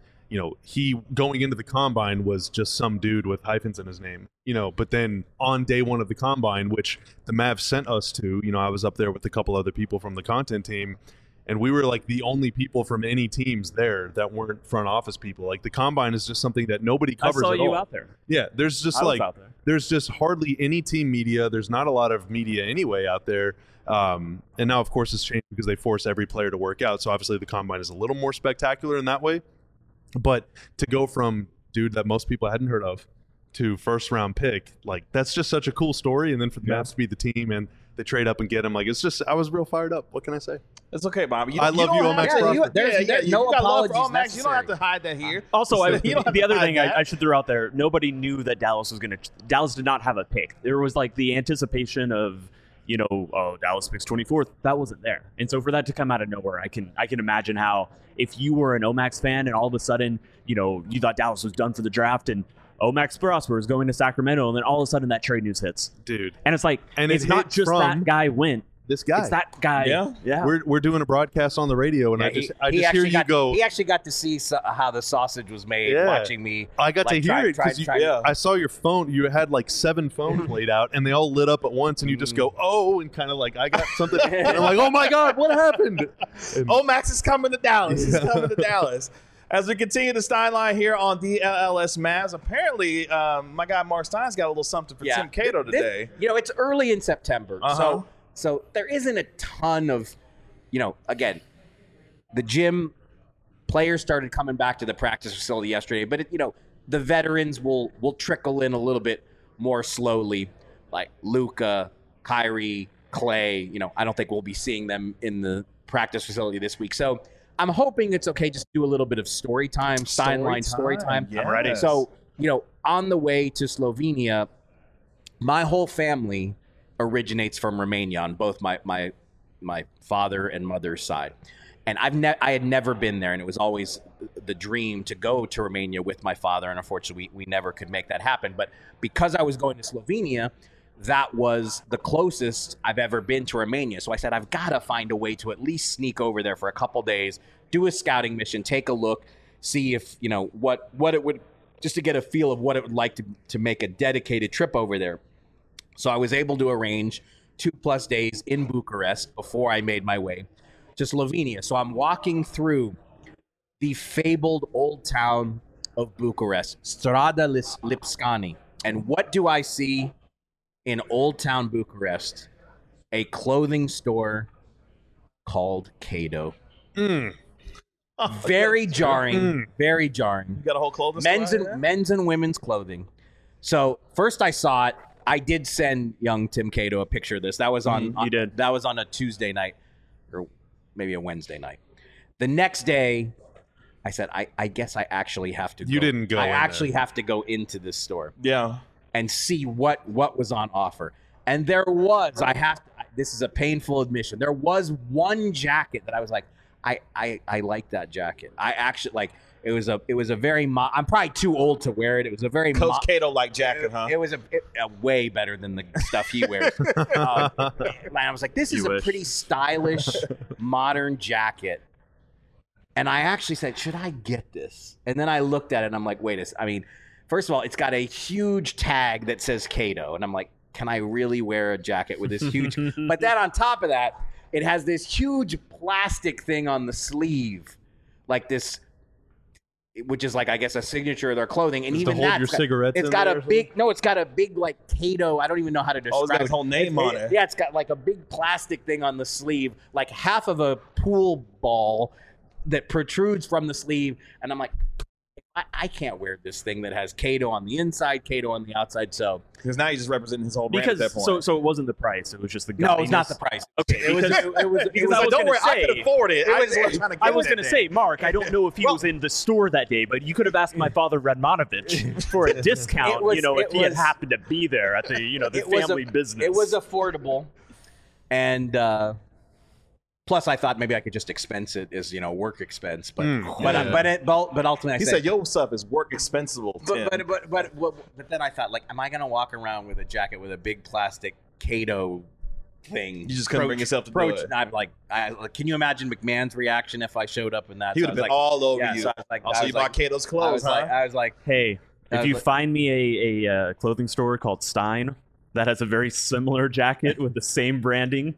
he going into the combine was just some dude with hyphens in his name, but then on day one of the combine, which the Mavs sent us to, I was up there with a couple other people from the content team, and we were like the only people from any teams there that weren't front office people. Like the combine is just something that nobody I covers saw at you all. out there. Yeah, there's just I was like out there. there's just hardly any team media. There's not a lot of media anyway out there. And now, of course, it's changed because they force every player to work out. So obviously the combine is a little more spectacular in that way. But to go from dude that most people hadn't heard of to first round pick, like that's just such a cool story. And then for the Mavs to be the team and they trade up and get him, like it's just I was real fired up. What can I say? It's okay, Bobby. I love you, Omax Prosper. There's no you got love apologies for Omax. You don't have necessary. to hide that here. Also, You don't have the to other hide thing that. I should throw out there: nobody knew that Dallas was going to. Dallas did not have a pick. There was like the anticipation of, Dallas picks 24th. That wasn't there, and so for that to come out of nowhere, I can imagine how if you were an Omax fan and all of a sudden, you thought Dallas was done for the draft and Omax Prosper is going to Sacramento, and then all of a sudden that trade news hits, Dude. and it's like, And it's it not hit just from that guy went. This guy. It's that guy. Yeah. We're doing a broadcast on the radio, and Yeah, I just he hear actually you got, go. He actually got to see how the sausage was made Yeah. watching me. I got to like, hear try- it because try- yeah. I saw your phone. You had like 7 phones laid out, and they all lit up at once. And you just go, "Oh!" and kind of like, "I got something." And I'm like, "Oh my God, what happened?" And Omax is coming to Dallas. He's coming to Dallas. As we continue the Steinline here on DLLS Mavs, apparently my guy Mark Stein's got a little something for Tim Cato today. It's early in September, Uh-huh. so there isn't a ton of, again, the gym players started coming back to the practice facility yesterday, but the veterans will trickle in a little bit more slowly, like Luka, Kyrie, Clay. I don't think we'll be seeing them in the practice facility this week. So I'm hoping it's okay just to do a little bit of story time, Steinline story time. Yes. I'm ready. So, on the way to Slovenia, my whole family originates from Romania on both my father and mother's side. And I had never been there, and it was always the dream to go to Romania with my father, and unfortunately we never could make that happen. But because I was going to Slovenia, that was the closest I've ever been to Romania. So I said, I've got to find a way to at least sneak over there for a couple days, do a scouting mission, take a look, see if, what it would, just to get a feel of what it would like to make a dedicated trip over there. So I was able to arrange 2+ days in Bucharest before I made my way to Slovenia. So I'm walking through the fabled old town of Bucharest, Strada Lipscani. And what do I see in Old Town Bucharest? A clothing store called Cato. Very jarring. Very jarring. You got a whole clothing store? Men's and women's clothing. So first I saw it. I did send young Tim Cato a picture of this. That was on. You did. That was on a Tuesday night, or maybe a Wednesday night. The next day, I said, I guess I actually have to. You didn't go. I in actually there. have to go into this store. Yeah. And see what was on offer. And there was, this is a painful admission, there was one jacket that I was like, I like that jacket. I actually, like, it was a very, I'm probably too old to wear it. It was a very Coach Cato-like jacket, huh? It was a way better than the stuff he wears. And I was like, this is a pretty stylish, modern jacket. And I actually said, should I get this? And then I looked at it and I'm like, wait a second. I mean, first of all, it's got a huge tag that says Cato. And I'm like, can I really wear a jacket with this huge? But then on top of that, it has this huge plastic thing on the sleeve, like this, which is like, I guess, a signature of their clothing. And Just even to hold that, your cigarettes it's in got there a or big, no, it's got a big like Cato. I don't even know how to describe Oh, it's got his whole name on it. Yeah, it's got like a big plastic thing on the sleeve, like half of a pool ball that protrudes from the sleeve. And I'm like, I can't wear this thing that has Cato on the inside, Cato on the outside. So because now he's just representing his whole brand at that point. so it wasn't the price; it was just the no, it's not the price. Okay, It was Like, don't worry, I could afford it. I was going to say, Mark, I don't know if he was in the store that day, but you could have asked my father Radmanovich for a discount, if he had happened to be there at the, the family business. It was affordable, and plus I thought maybe I could just expense it as work expense, but ultimately he said your stuff is work expensible. But then I thought, like, am I going to walk around with a jacket with a big plastic Cato thing? You just couldn't bring yourself to do it. And I'm like, can you imagine McMahon's reaction if I showed up in that? He would have been all over you. So I was like, also, you bought Cato's clothes, huh? I was like, hey, if you find me a clothing store called Stein that has a very similar jacket with the same branding,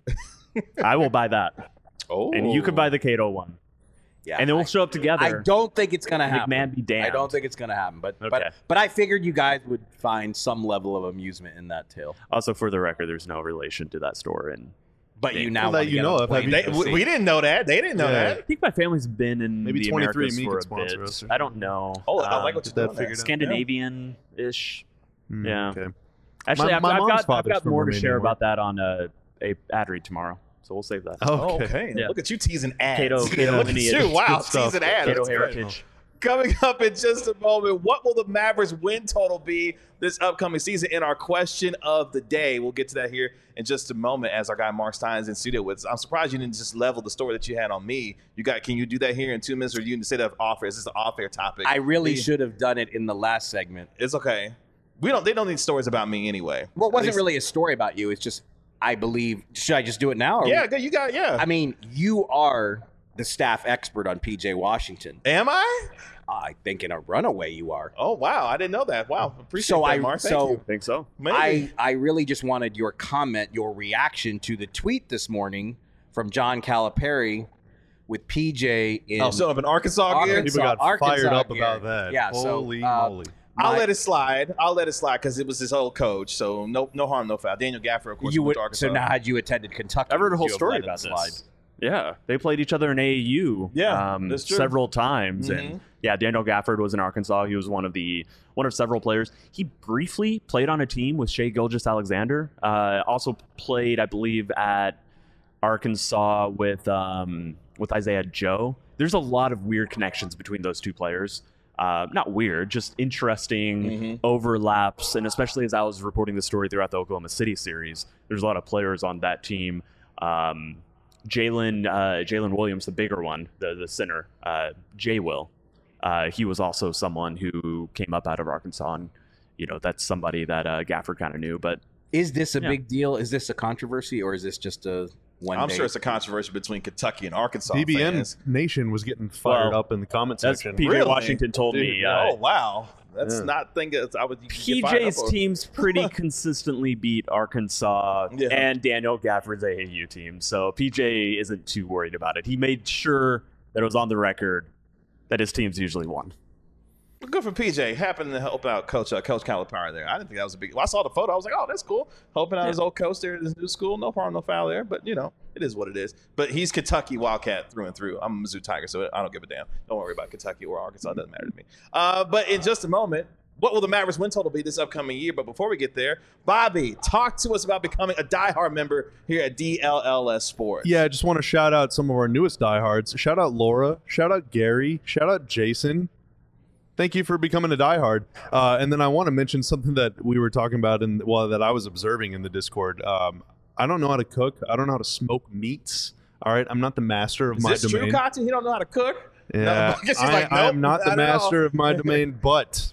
I will buy that. Oh, and you could buy the Cato one. Yeah, and then we'll show up together. I don't think it's gonna happen. McMahon be damned. I don't think it's gonna happen. But Okay. but I figured you guys would find some level of amusement in that tale. Also, for the record, there's no relation to that store. And But you now Well, that want to you get know on a of. plane Have to you- go see. we didn't know that. They didn't know Yeah. I think my family's been in Maybe the 23andMe Americas for could a sponsor bit. us. I don't know. Oh, I like what Get you're that doing. figured out. Scandinavian-ish. Yeah. Okay. Actually, My mom's I've father's got from more to Romania, share Mark. about that on a ad read tomorrow. So we'll save that. Oh, Okay. okay. Yeah. Look at you teasing ads. Cato Look at lineage. you. Wow, Good stuff. teasing ads. Cato That's great. heritage. Coming up in just a moment, what will the Mavericks win total be this upcoming season in our question of the day? We'll get to that here in just a moment as our guy Mark Stein's in studio with us. I'm surprised you didn't just level the story that you had on me. Can you do that here in 2 minutes, or you say that off air? Is this an off air topic? I really should have done it in the last segment. It's okay. They don't need stories about me anyway. Well, it wasn't really a story about you. It's just, I believe. Should I just do it now? Or Yeah, good. You got I mean, you are the staff expert on PJ Washington. Am I? I think in a runaway you are. Oh wow, I didn't know that. Wow, appreciate So that, Mark. Thank you. I think so. Maybe. I really just wanted your comment, your reaction to the tweet this morning from John Calipari with PJ in so up in Arkansas gear. People got Arkansas fired up gear. about that. Yeah, Holy so, moly. I'll let it slide. Because it was his old coach. So no harm, no foul. Daniel Gafford, of course, You went would, to Arkansas. so now had you attended Kentucky, I've heard a whole would you have story let it about slide? this. Yeah, they played each other in AAU. Yeah, that's true. Several times, Mhm. and yeah, Daniel Gafford was in Arkansas. He was one of several players. He briefly played on a team with Shai Gilgeous-Alexander. Also played, I believe, at Arkansas with Isaiah Joe. There's a lot of weird connections between those two players. Not weird, just interesting overlaps, and especially as I was reporting the story throughout the Oklahoma City series, there's a lot of players on that team Jalen Williams, the bigger one, the center, Jay Will. He was also someone who came up out of Arkansas, and that's somebody that Gafford kind of knew. But is this a big deal? Is this a controversy, or is this just a one? I'm sure it's a controversy between Kentucky and Arkansas. DBN fans. Nation was getting fired up in the comment section. PJ Really? Washington told me. Oh wow, that's not thinking. I would. PJ's teams pretty consistently beat Arkansas and Daniel Gafford's AAU team, so PJ isn't too worried about it. He made sure that it was on the record that his teams usually won. Good for PJ. Happened to help out Coach Calipari there. I didn't think that was a big. Well, I saw the photo. I was like, oh, that's cool. Helping out his old coach there at his new school. No problem, no foul there. But it is what it is. But he's Kentucky Wildcat through and through. I'm a Mizzou Tiger, so I don't give a damn. Don't worry about Kentucky or Arkansas. It doesn't matter to me. But in just a moment, what will the Mavericks win total be this upcoming year? But before we get there, Bobby, talk to us about becoming a diehard member here at DLLS Sports. Yeah, I just want to shout out some of our newest diehards. Shout out Laura. Shout out Gary. Shout out Jason. Thank you for becoming a diehard. And then I want to mention something that we were talking about that I was observing in the Discord. I don't know how to cook. I don't know how to smoke meats. All right, I'm not the master of my domain. Is this true, Kachi? He don't know how to cook? Yeah, No, I am not the master of my domain, but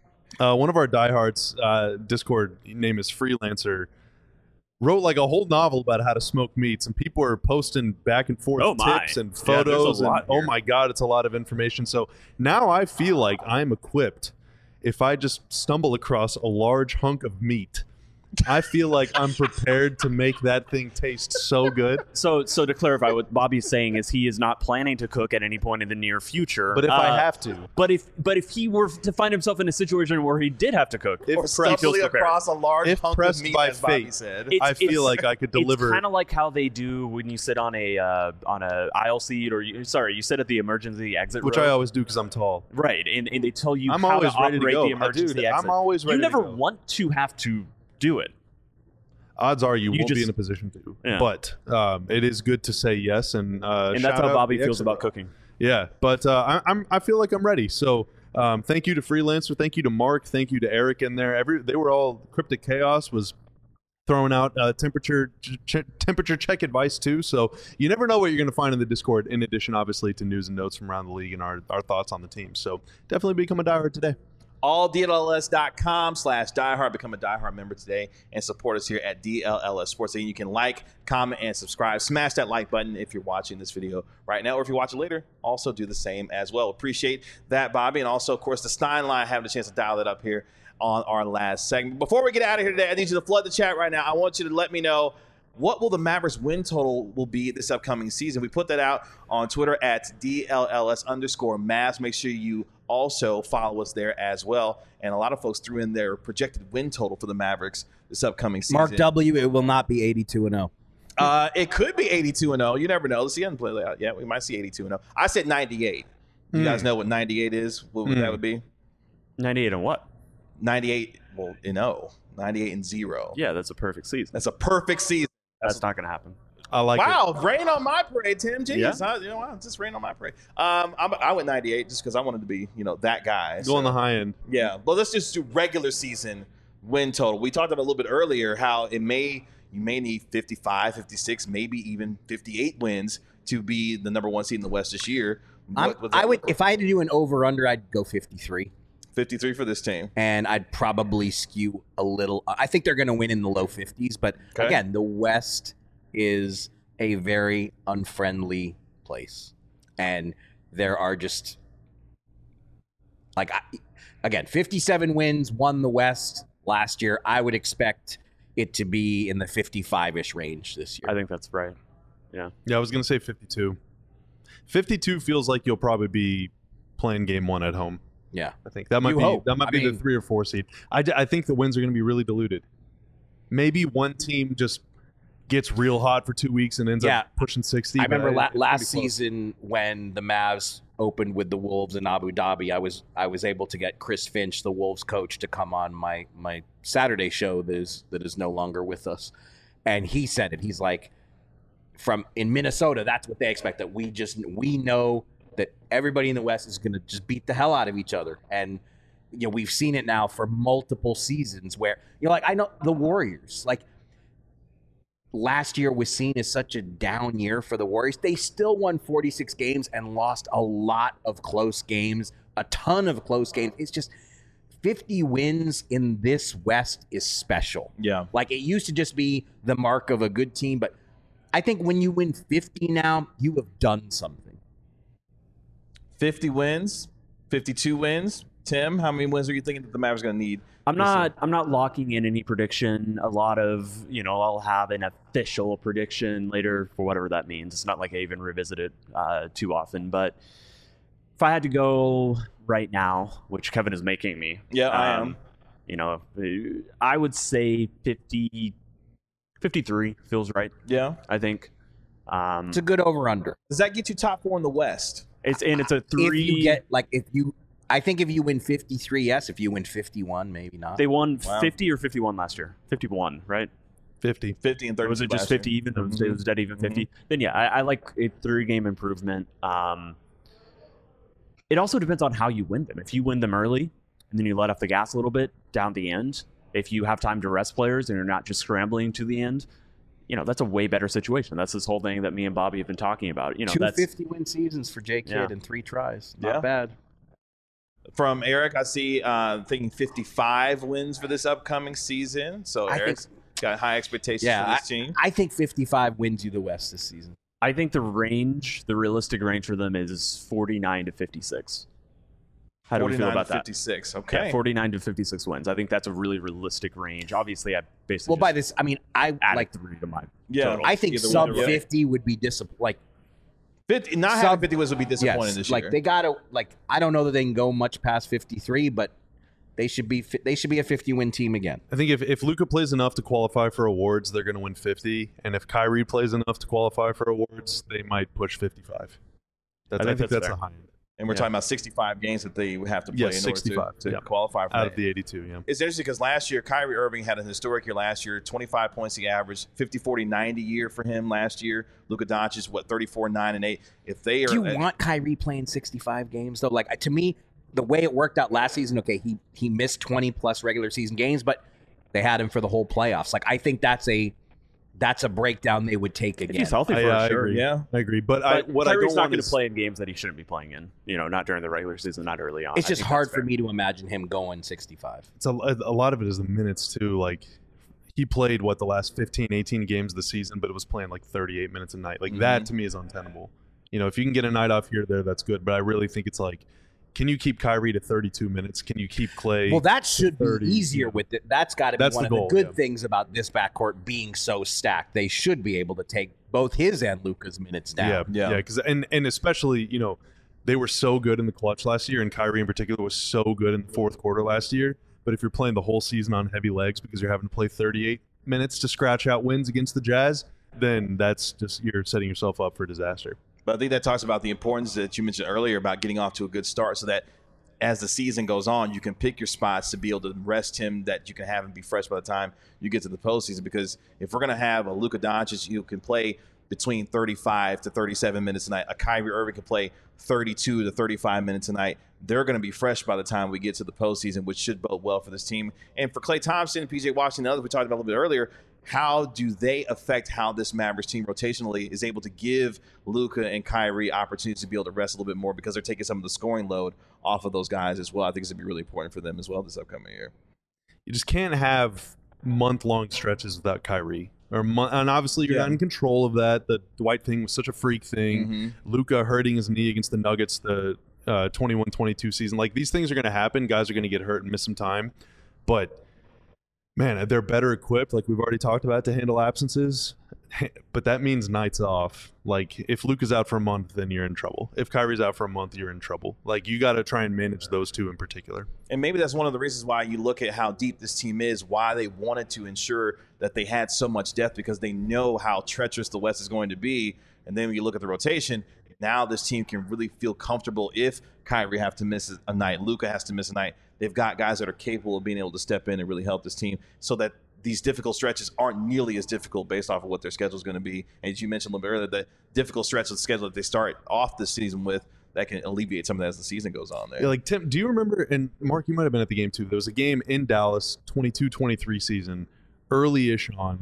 one of our diehards, Discord name is Freelancer, wrote like a whole novel about how to smoke meats, and people are posting back and forth tips and photos. Oh my God, it's a lot of information. So now I feel like I'm equipped. If I just stumble across a large hunk of meat, I feel like I'm prepared to make that thing taste so good. So to clarify, what Bobby's saying is he is not planning to cook at any point in the near future. But if I have to. But if he were to find himself in a situation where he did have to cook, or stumbling across a large hunk of meat, as Bobby said, I feel like I could deliver. It's kind of like how they do when you sit on a aisle seat, or you sit at the emergency exit, which row. I always do because I'm tall. Right, and they tell you I'm how always to ready operate to go. the emergency exit. I'm always ready. You never to go. want to have to do it. Odds are you won't be in a position to. Yeah. But it is good to say yes, and that's how Bobby feels about cooking. Yeah, but I feel like I'm ready. So thank you to Freelancer, thank you to Mark, thank you to Eric in there. They were all. Cryptic Chaos was throwing out temperature check advice too. So you never know what you're going to find in the Discord. In addition, obviously, to news and notes from around the league and our thoughts on the team. So definitely become a diehard today. alldlls.com/diehard. Become a diehard member today and support us here at DLLS Sports. And you can like, comment, and subscribe. Smash that like button if you're watching this video right now, or if you watch it later, also do the same as well. Appreciate that, Bobby. And also, of course, the Stein line, having a chance to dial it up here on our last segment. Before we get out of here today, I need you to flood the chat right now. I want you to let me know, what will the Mavericks win total will be this upcoming season? We put that out on Twitter at DLLS_Mavs. Make sure you also follow us there as well. And a lot of folks threw in their projected win total for the Mavericks this upcoming season. Mark W., it will not be 82-0. It could be 82-0. You never know. Let's see. I haven't played it out yet. We might see 82-0. I said 98. You guys know what 98 is? What that would be? 98 and what? 98, well, in 98 and 0. Yeah, that's a perfect season. That's a perfect season. That's not going to happen. I like it. Wow, rain on my parade, Tim. Jeez, Yeah. Just rain on my parade. I went 98 just because I wanted to be, that guy. Go on the high end. Yeah, but let's just do regular season win total. We talked about a little bit earlier how you may need 55, 56, maybe even 58 wins to be the number one seed in the West this year. If I had to do an over/under, I'd go 53. 53 for this team. And I'd probably skew a little. I think they're going to win in the low 50s. But again, the West is a very unfriendly place. And there are just, 57 wins, won the West last year. I would expect it to be in the 55-ish range this year. I think that's right. Yeah. Yeah, I was going to say 52. 52 feels like you'll probably be playing game one at home. Yeah, I think that might be the 3 or 4 seed. I think the wins are going to be really diluted. Maybe one team just gets real hot for 2 weeks and ends up pushing 60. I remember last season when the Mavs opened with the Wolves in Abu Dhabi. I was able to get Chris Finch, the Wolves coach, to come on my Saturday show that is no longer with us, and he said it. He's like, in Minnesota, that's what they expect. That we know that everybody in the West is going to just beat the hell out of each other. And, we've seen it now for multiple seasons where, I know the Warriors, last year was seen as such a down year for the Warriors. They still won 46 games and lost a lot of close games, a ton of close games. It's just 50 wins in this West is special. Yeah. Like, it used to just be the mark of a good team, but I think when you win 50 now, you have done something. 50 wins, 52 wins. Tim, how many wins are you thinking that the Mavericks going to need? I'm not locking in any prediction. A lot of, I'll have an official prediction later for whatever that means. It's not like I even revisit it too often. But if I had to go right now, which Kevin is making me. Yeah, I am. I would say 53 feels right. Yeah. I think. It's a good over-under. Does that get you top 4 in the West? It's a 3. If you get, I think if you win 53, yes. If you win 51, maybe not. They won 50 or 51 last year. 51, right? 50 and 30. Was it just 50 even? Mm-hmm. It was dead even 50. Mm-hmm. Then yeah, I like a 3-game improvement. It also depends on how you win them. If you win them early and then you let off the gas a little bit down the end, if you have time to rest players and you're not just scrambling to the end, that's a way better situation. That's this whole thing that me and Bobby have been talking about. 2 50-win seasons for J. Kidd and 3 tries. Not bad. From Eric, I see thinking 55 wins for this upcoming season. So Eric's got high expectations for this team. I think 55 wins you the West this season. I think the realistic range for them is 49 to 56. How do we feel about 56. Okay. Yeah, 49 to 56 wins. I think that's a really realistic range. Obviously, I basically by this, I mean, I like 3 to my total. I think sub 50 would be disappointing. 50, not having 50 wins would be disappointing this year. They gotta I don't know that they can go much past 53, but they should be a 50-win team again. I think if Luka plays enough to qualify for awards, they're going to win 50, and if Kyrie plays enough to qualify for awards, they might push 55. I think that's the high end. And we're talking about 65 games that they have to play in order to qualify for out of the 82. Yeah, it's interesting because last year Kyrie Irving had a historic year. Last year, 25 points he averaged, 50-40-90 year for him last year. Luka Doncic 34-9-8. If they are, do you want Kyrie playing 65 games though? Like, to me, the way it worked out last season, okay, he missed 20 plus regular season games, but they had him for the whole playoffs. Like, I think that's a breakdown they would take again. If he's healthy, for sure. Agree. Yeah, I agree. But what I don't want to play in games that he shouldn't be playing in. Not during the regular season, not early on. It's just hard for me to imagine him going 65. It's a lot of it is the minutes too. Like, he played the last 15, 18 games of the season, but it was playing like 38 minutes a night. Like that to me is untenable. If you can get a night off here or there, that's good. But I really think it's like, can you keep Kyrie to 32 minutes? Can you keep Clay? Well, that should be easier with it. That's got to be one of the good things about this backcourt being so stacked. They should be able to take both his and Luka's minutes down. Yeah. Because and especially they were so good in the clutch last year, and Kyrie in particular was so good in the fourth quarter last year. But if you're playing the whole season on heavy legs because you're having to play 38 minutes to scratch out wins against the Jazz, then that's just you're setting yourself up for disaster. But I think that talks about the importance that you mentioned earlier about getting off to a good start so that as the season goes on, you can pick your spots to be able to rest him, that you can have him be fresh by the time you get to the postseason. Because if we're going to have a Luka Doncic who can play between 35 to 37 minutes a night, a Kyrie Irving can play 32 to 35 minutes a night, they're going to be fresh by the time we get to the postseason, which should bode well for this team. And for Klay Thompson and PJ Washington and others we talked about a little bit earlier, how do they affect how this Mavericks team rotationally is able to give Luka and Kyrie opportunities to be able to rest a little bit more because they're taking some of the scoring load off of those guys as well? I think it's going to be really important for them as well this upcoming year. You just can't have month-long stretches without Kyrie. And obviously you're not in control of that. The Dwight thing was such a freak thing. Luka hurting his knee against the Nuggets the 21-22 season. Like, these things are going to happen. Guys are going to get hurt and miss some time. But man, they're better equipped, like we've already talked about, to handle absences. But that means nights off. Like, if Luke is out for a month, then you're in trouble. If Kyrie's out for a month, you're in trouble. Like, you got to try and manage those two in particular. And maybe that's one of the reasons why you look at how deep this team is, why they wanted to ensure that they had so much depth, because they know how treacherous the West is going to be. And then when you look at the rotation, now this team can really feel comfortable if Kyrie have to miss a night, Luka has to miss a night. They've got guys that are capable of being able to step in and really help this team so that these difficult stretches aren't nearly as difficult based off of what their schedule is going to be. And as you mentioned a little bit earlier, the difficult stretch of the schedule that they start off this season with, that can alleviate some of that as the season goes on there. Yeah, like, Tim, do you remember, and Mark, you might have been at the game too, there was a game in Dallas, 22-23 season, early-ish on,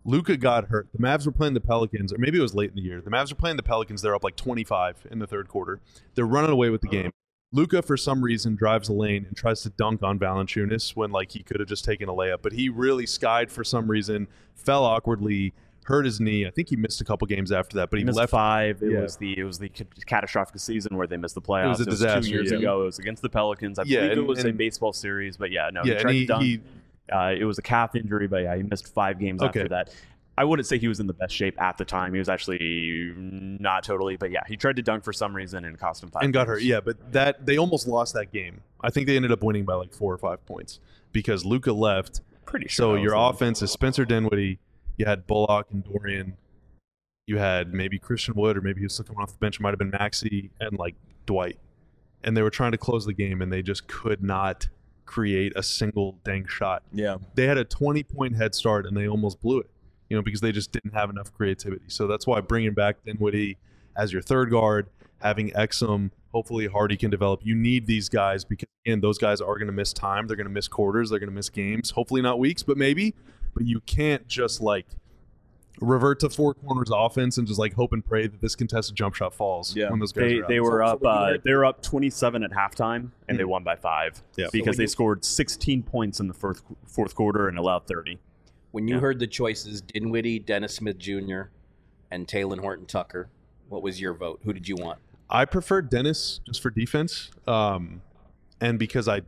Luka got hurt. The Mavs were playing the Pelicans, or maybe it was late in the year. The Mavs were playing the Pelicans. They're up like 25 in the third quarter. They're running away with the game. Luka, for some reason, drives the lane and tries to dunk on Valanciunas when like he could have just taken a layup. But he really skied for some reason, fell awkwardly, hurt his knee. I think he missed a couple games after that. But he missed left 5. It was the catastrophic season where they missed the playoffs. It was a disaster. 2 years ago. It was against the Pelicans. I believe it was a baseball series. But yeah, no, he tried to dunk. It was a calf injury, but yeah, he missed 5 games after that. I wouldn't say he was in the best shape at the time. He was actually not totally, but yeah, he tried to dunk for some reason and cost him 5 and got hurt. games. Yeah, but they almost lost that game. I think they ended up winning by like 4 or 5 points because Luka left. Pretty So sure. your offense is Spencer Dinwiddie. You had Bullock and Dorian. You had maybe Christian Wood, or maybe he was still coming off the bench. It might have been Maxey and like Dwight. And they were trying to close the game, and they just could not create a single dang shot. Yeah. They had a 20-point head start, and they almost blew it, because they just didn't have enough creativity. So that's why bringing back Dinwiddie as your third guard, having Exum, hopefully Hardy can develop. You need these guys because, again, those guys are going to miss time. They're going to miss quarters. They're going to miss games. Hopefully not weeks, but maybe. But you can't just, like, revert to 4 corners offense and just, like, hope and pray that this contested jump shot falls when those guys are out. They were up 27 at halftime, and they won by 5 because they scored 16 points in the fourth quarter and allowed 30. When you heard the choices, Dinwiddie, Dennis Smith Jr., and Talen Horton-Tucker, what was your vote? Who did you want? I preferred Dennis just for defense, and because I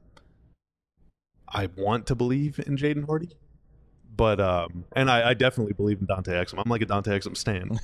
want to believe in Jaden Hardy, but and I definitely believe in Dante Exum. I'm like a Dante Exum stan,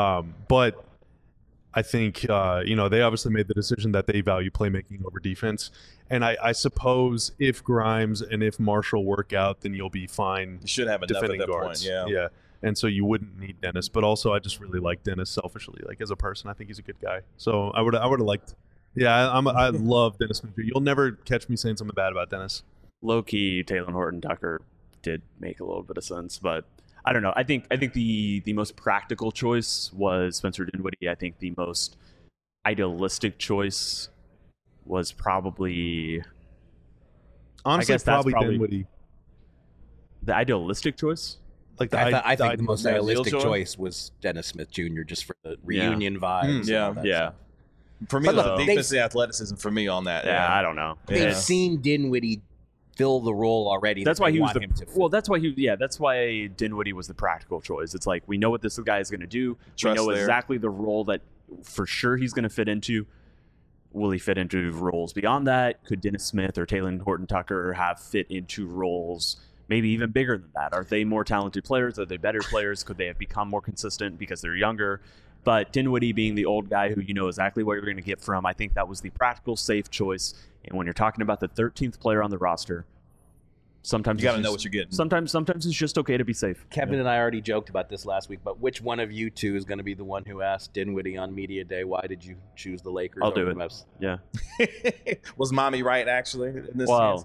but I think they obviously made the decision that they value playmaking over defense. And I suppose if Grimes and if Marshall work out, then you'll be fine. You should have enough defending at that guards. point. Yeah. And so you wouldn't need Dennis, but also I just really like Dennis selfishly, like as a person. I think he's a good guy. So I would have liked. Yeah, I love Dennis Smith. You'll never catch me saying something bad about Dennis. Low key, Talen Horton-Tucker did make a little bit of sense, but I don't know. I think the most practical choice was Spencer Dinwiddie. I think the most idealistic choice was probably. Honestly, I guess that's probably Dinwiddie. The idealistic choice. Like I think the most realistic choice was Dennis Smith Jr. just for the reunion vibes. Yeah. For me, the defensive athleticism for me on that. Yeah, I don't know. They've seen Dinwiddie fill the role already. That's why he was that's why Dinwiddie was the practical choice. It's like we know what this guy is going to do. We know exactly the role that for sure he's going to fit into. Will he fit into roles beyond that? Could Dennis Smith or Talen Horton-Tucker have fit into roles maybe even bigger than that? Are they more talented players? Are they better players? Could they have become more consistent because they're younger? But Dinwiddie being the old guy who you know exactly what you're going to get from, I think that was the practical, safe choice. And when you're talking about the 13th player on the roster, sometimes you got to know what you're getting. Sometimes it's just okay to be safe. Kevin and I already joked about this last week, but which one of you two is going to be the one who asked Dinwiddie on Media Day, why did you choose the Lakers? I'll do it. Yeah. Was Mommy right, actually, in this sense?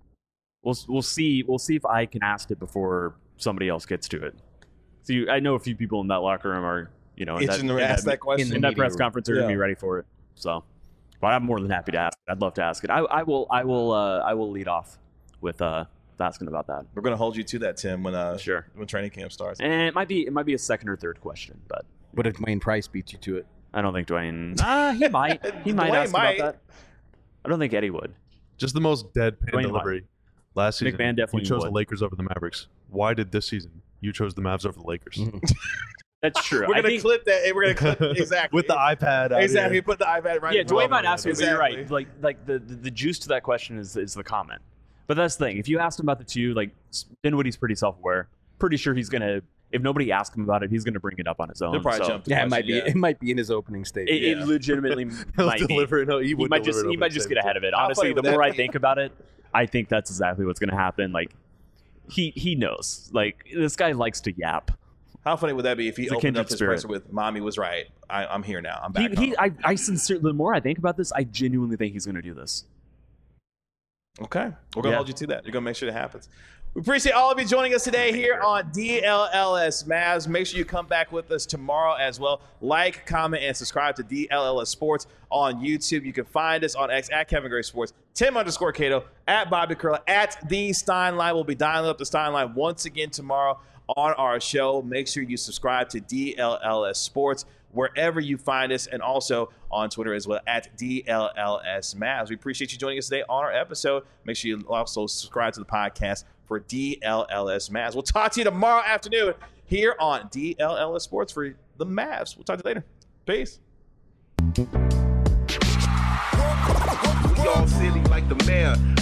We'll see if I can ask it before somebody else gets to it. So I know a few people in that locker room are, in that question in that press conference are going to be ready for it. So, but I'm more than happy to ask it. I'd love to ask it. I will lead off with asking about that. We're going to hold you to that, Tim, when training camp starts. And it might be a second or third question, but what if Dwayne Price beats you to it? I don't think Dwayne. He might. He might ask about that. I don't think Eddie would. Just the most deadpan delivery. Last season, McMahon definitely you chose the Lakers over the Mavericks. Why did this season you chose the Mavs over the Lakers? That's true. We're going to clip that. We're going to clip exactly with the iPad. Exactly. Put the iPad right. Yeah, Dwayne might ask you, but you're right. Like the juice to that question is the comment. But that's the thing. If you asked him about the two, like Dinwiddie's pretty self-aware. Pretty sure he's gonna. If nobody asks him about it, he's gonna bring it up on his own. He'll probably jump. Yeah, it might be. It might be in his opening statement. It legitimately might deliver. No, he might just get ahead of it. Honestly, the more I think about it, I think that's exactly what's gonna happen. Like he knows. Like this guy likes to yap. How funny would that be if he opened up his presser with "Mommy was right. I'm here now. I'm back." I sincerely. The more I think about this, I genuinely think he's gonna do this. Okay. We're going to hold you to that. You're going to make sure that happens. We appreciate all of you joining us today here on DLLS Mavs. Make sure you come back with us tomorrow as well. Like, comment, and subscribe to DLLS Sports on YouTube. You can find us on X at Kevin Gray Sports, Tim_Cato, at Bobby Curla, at The Steinline. We'll be dialing up the Steinline once again tomorrow on our show. Make sure you subscribe to DLLS Sports wherever you find us, and also on Twitter as well at DLLS Mavs. We appreciate you joining us today on our episode. Make sure you also subscribe to the podcast for DLLS Mavs. We'll talk to you tomorrow afternoon here on DLLS Sports for the Mavs. We'll talk to you later. Peace. We all silly like the mayor.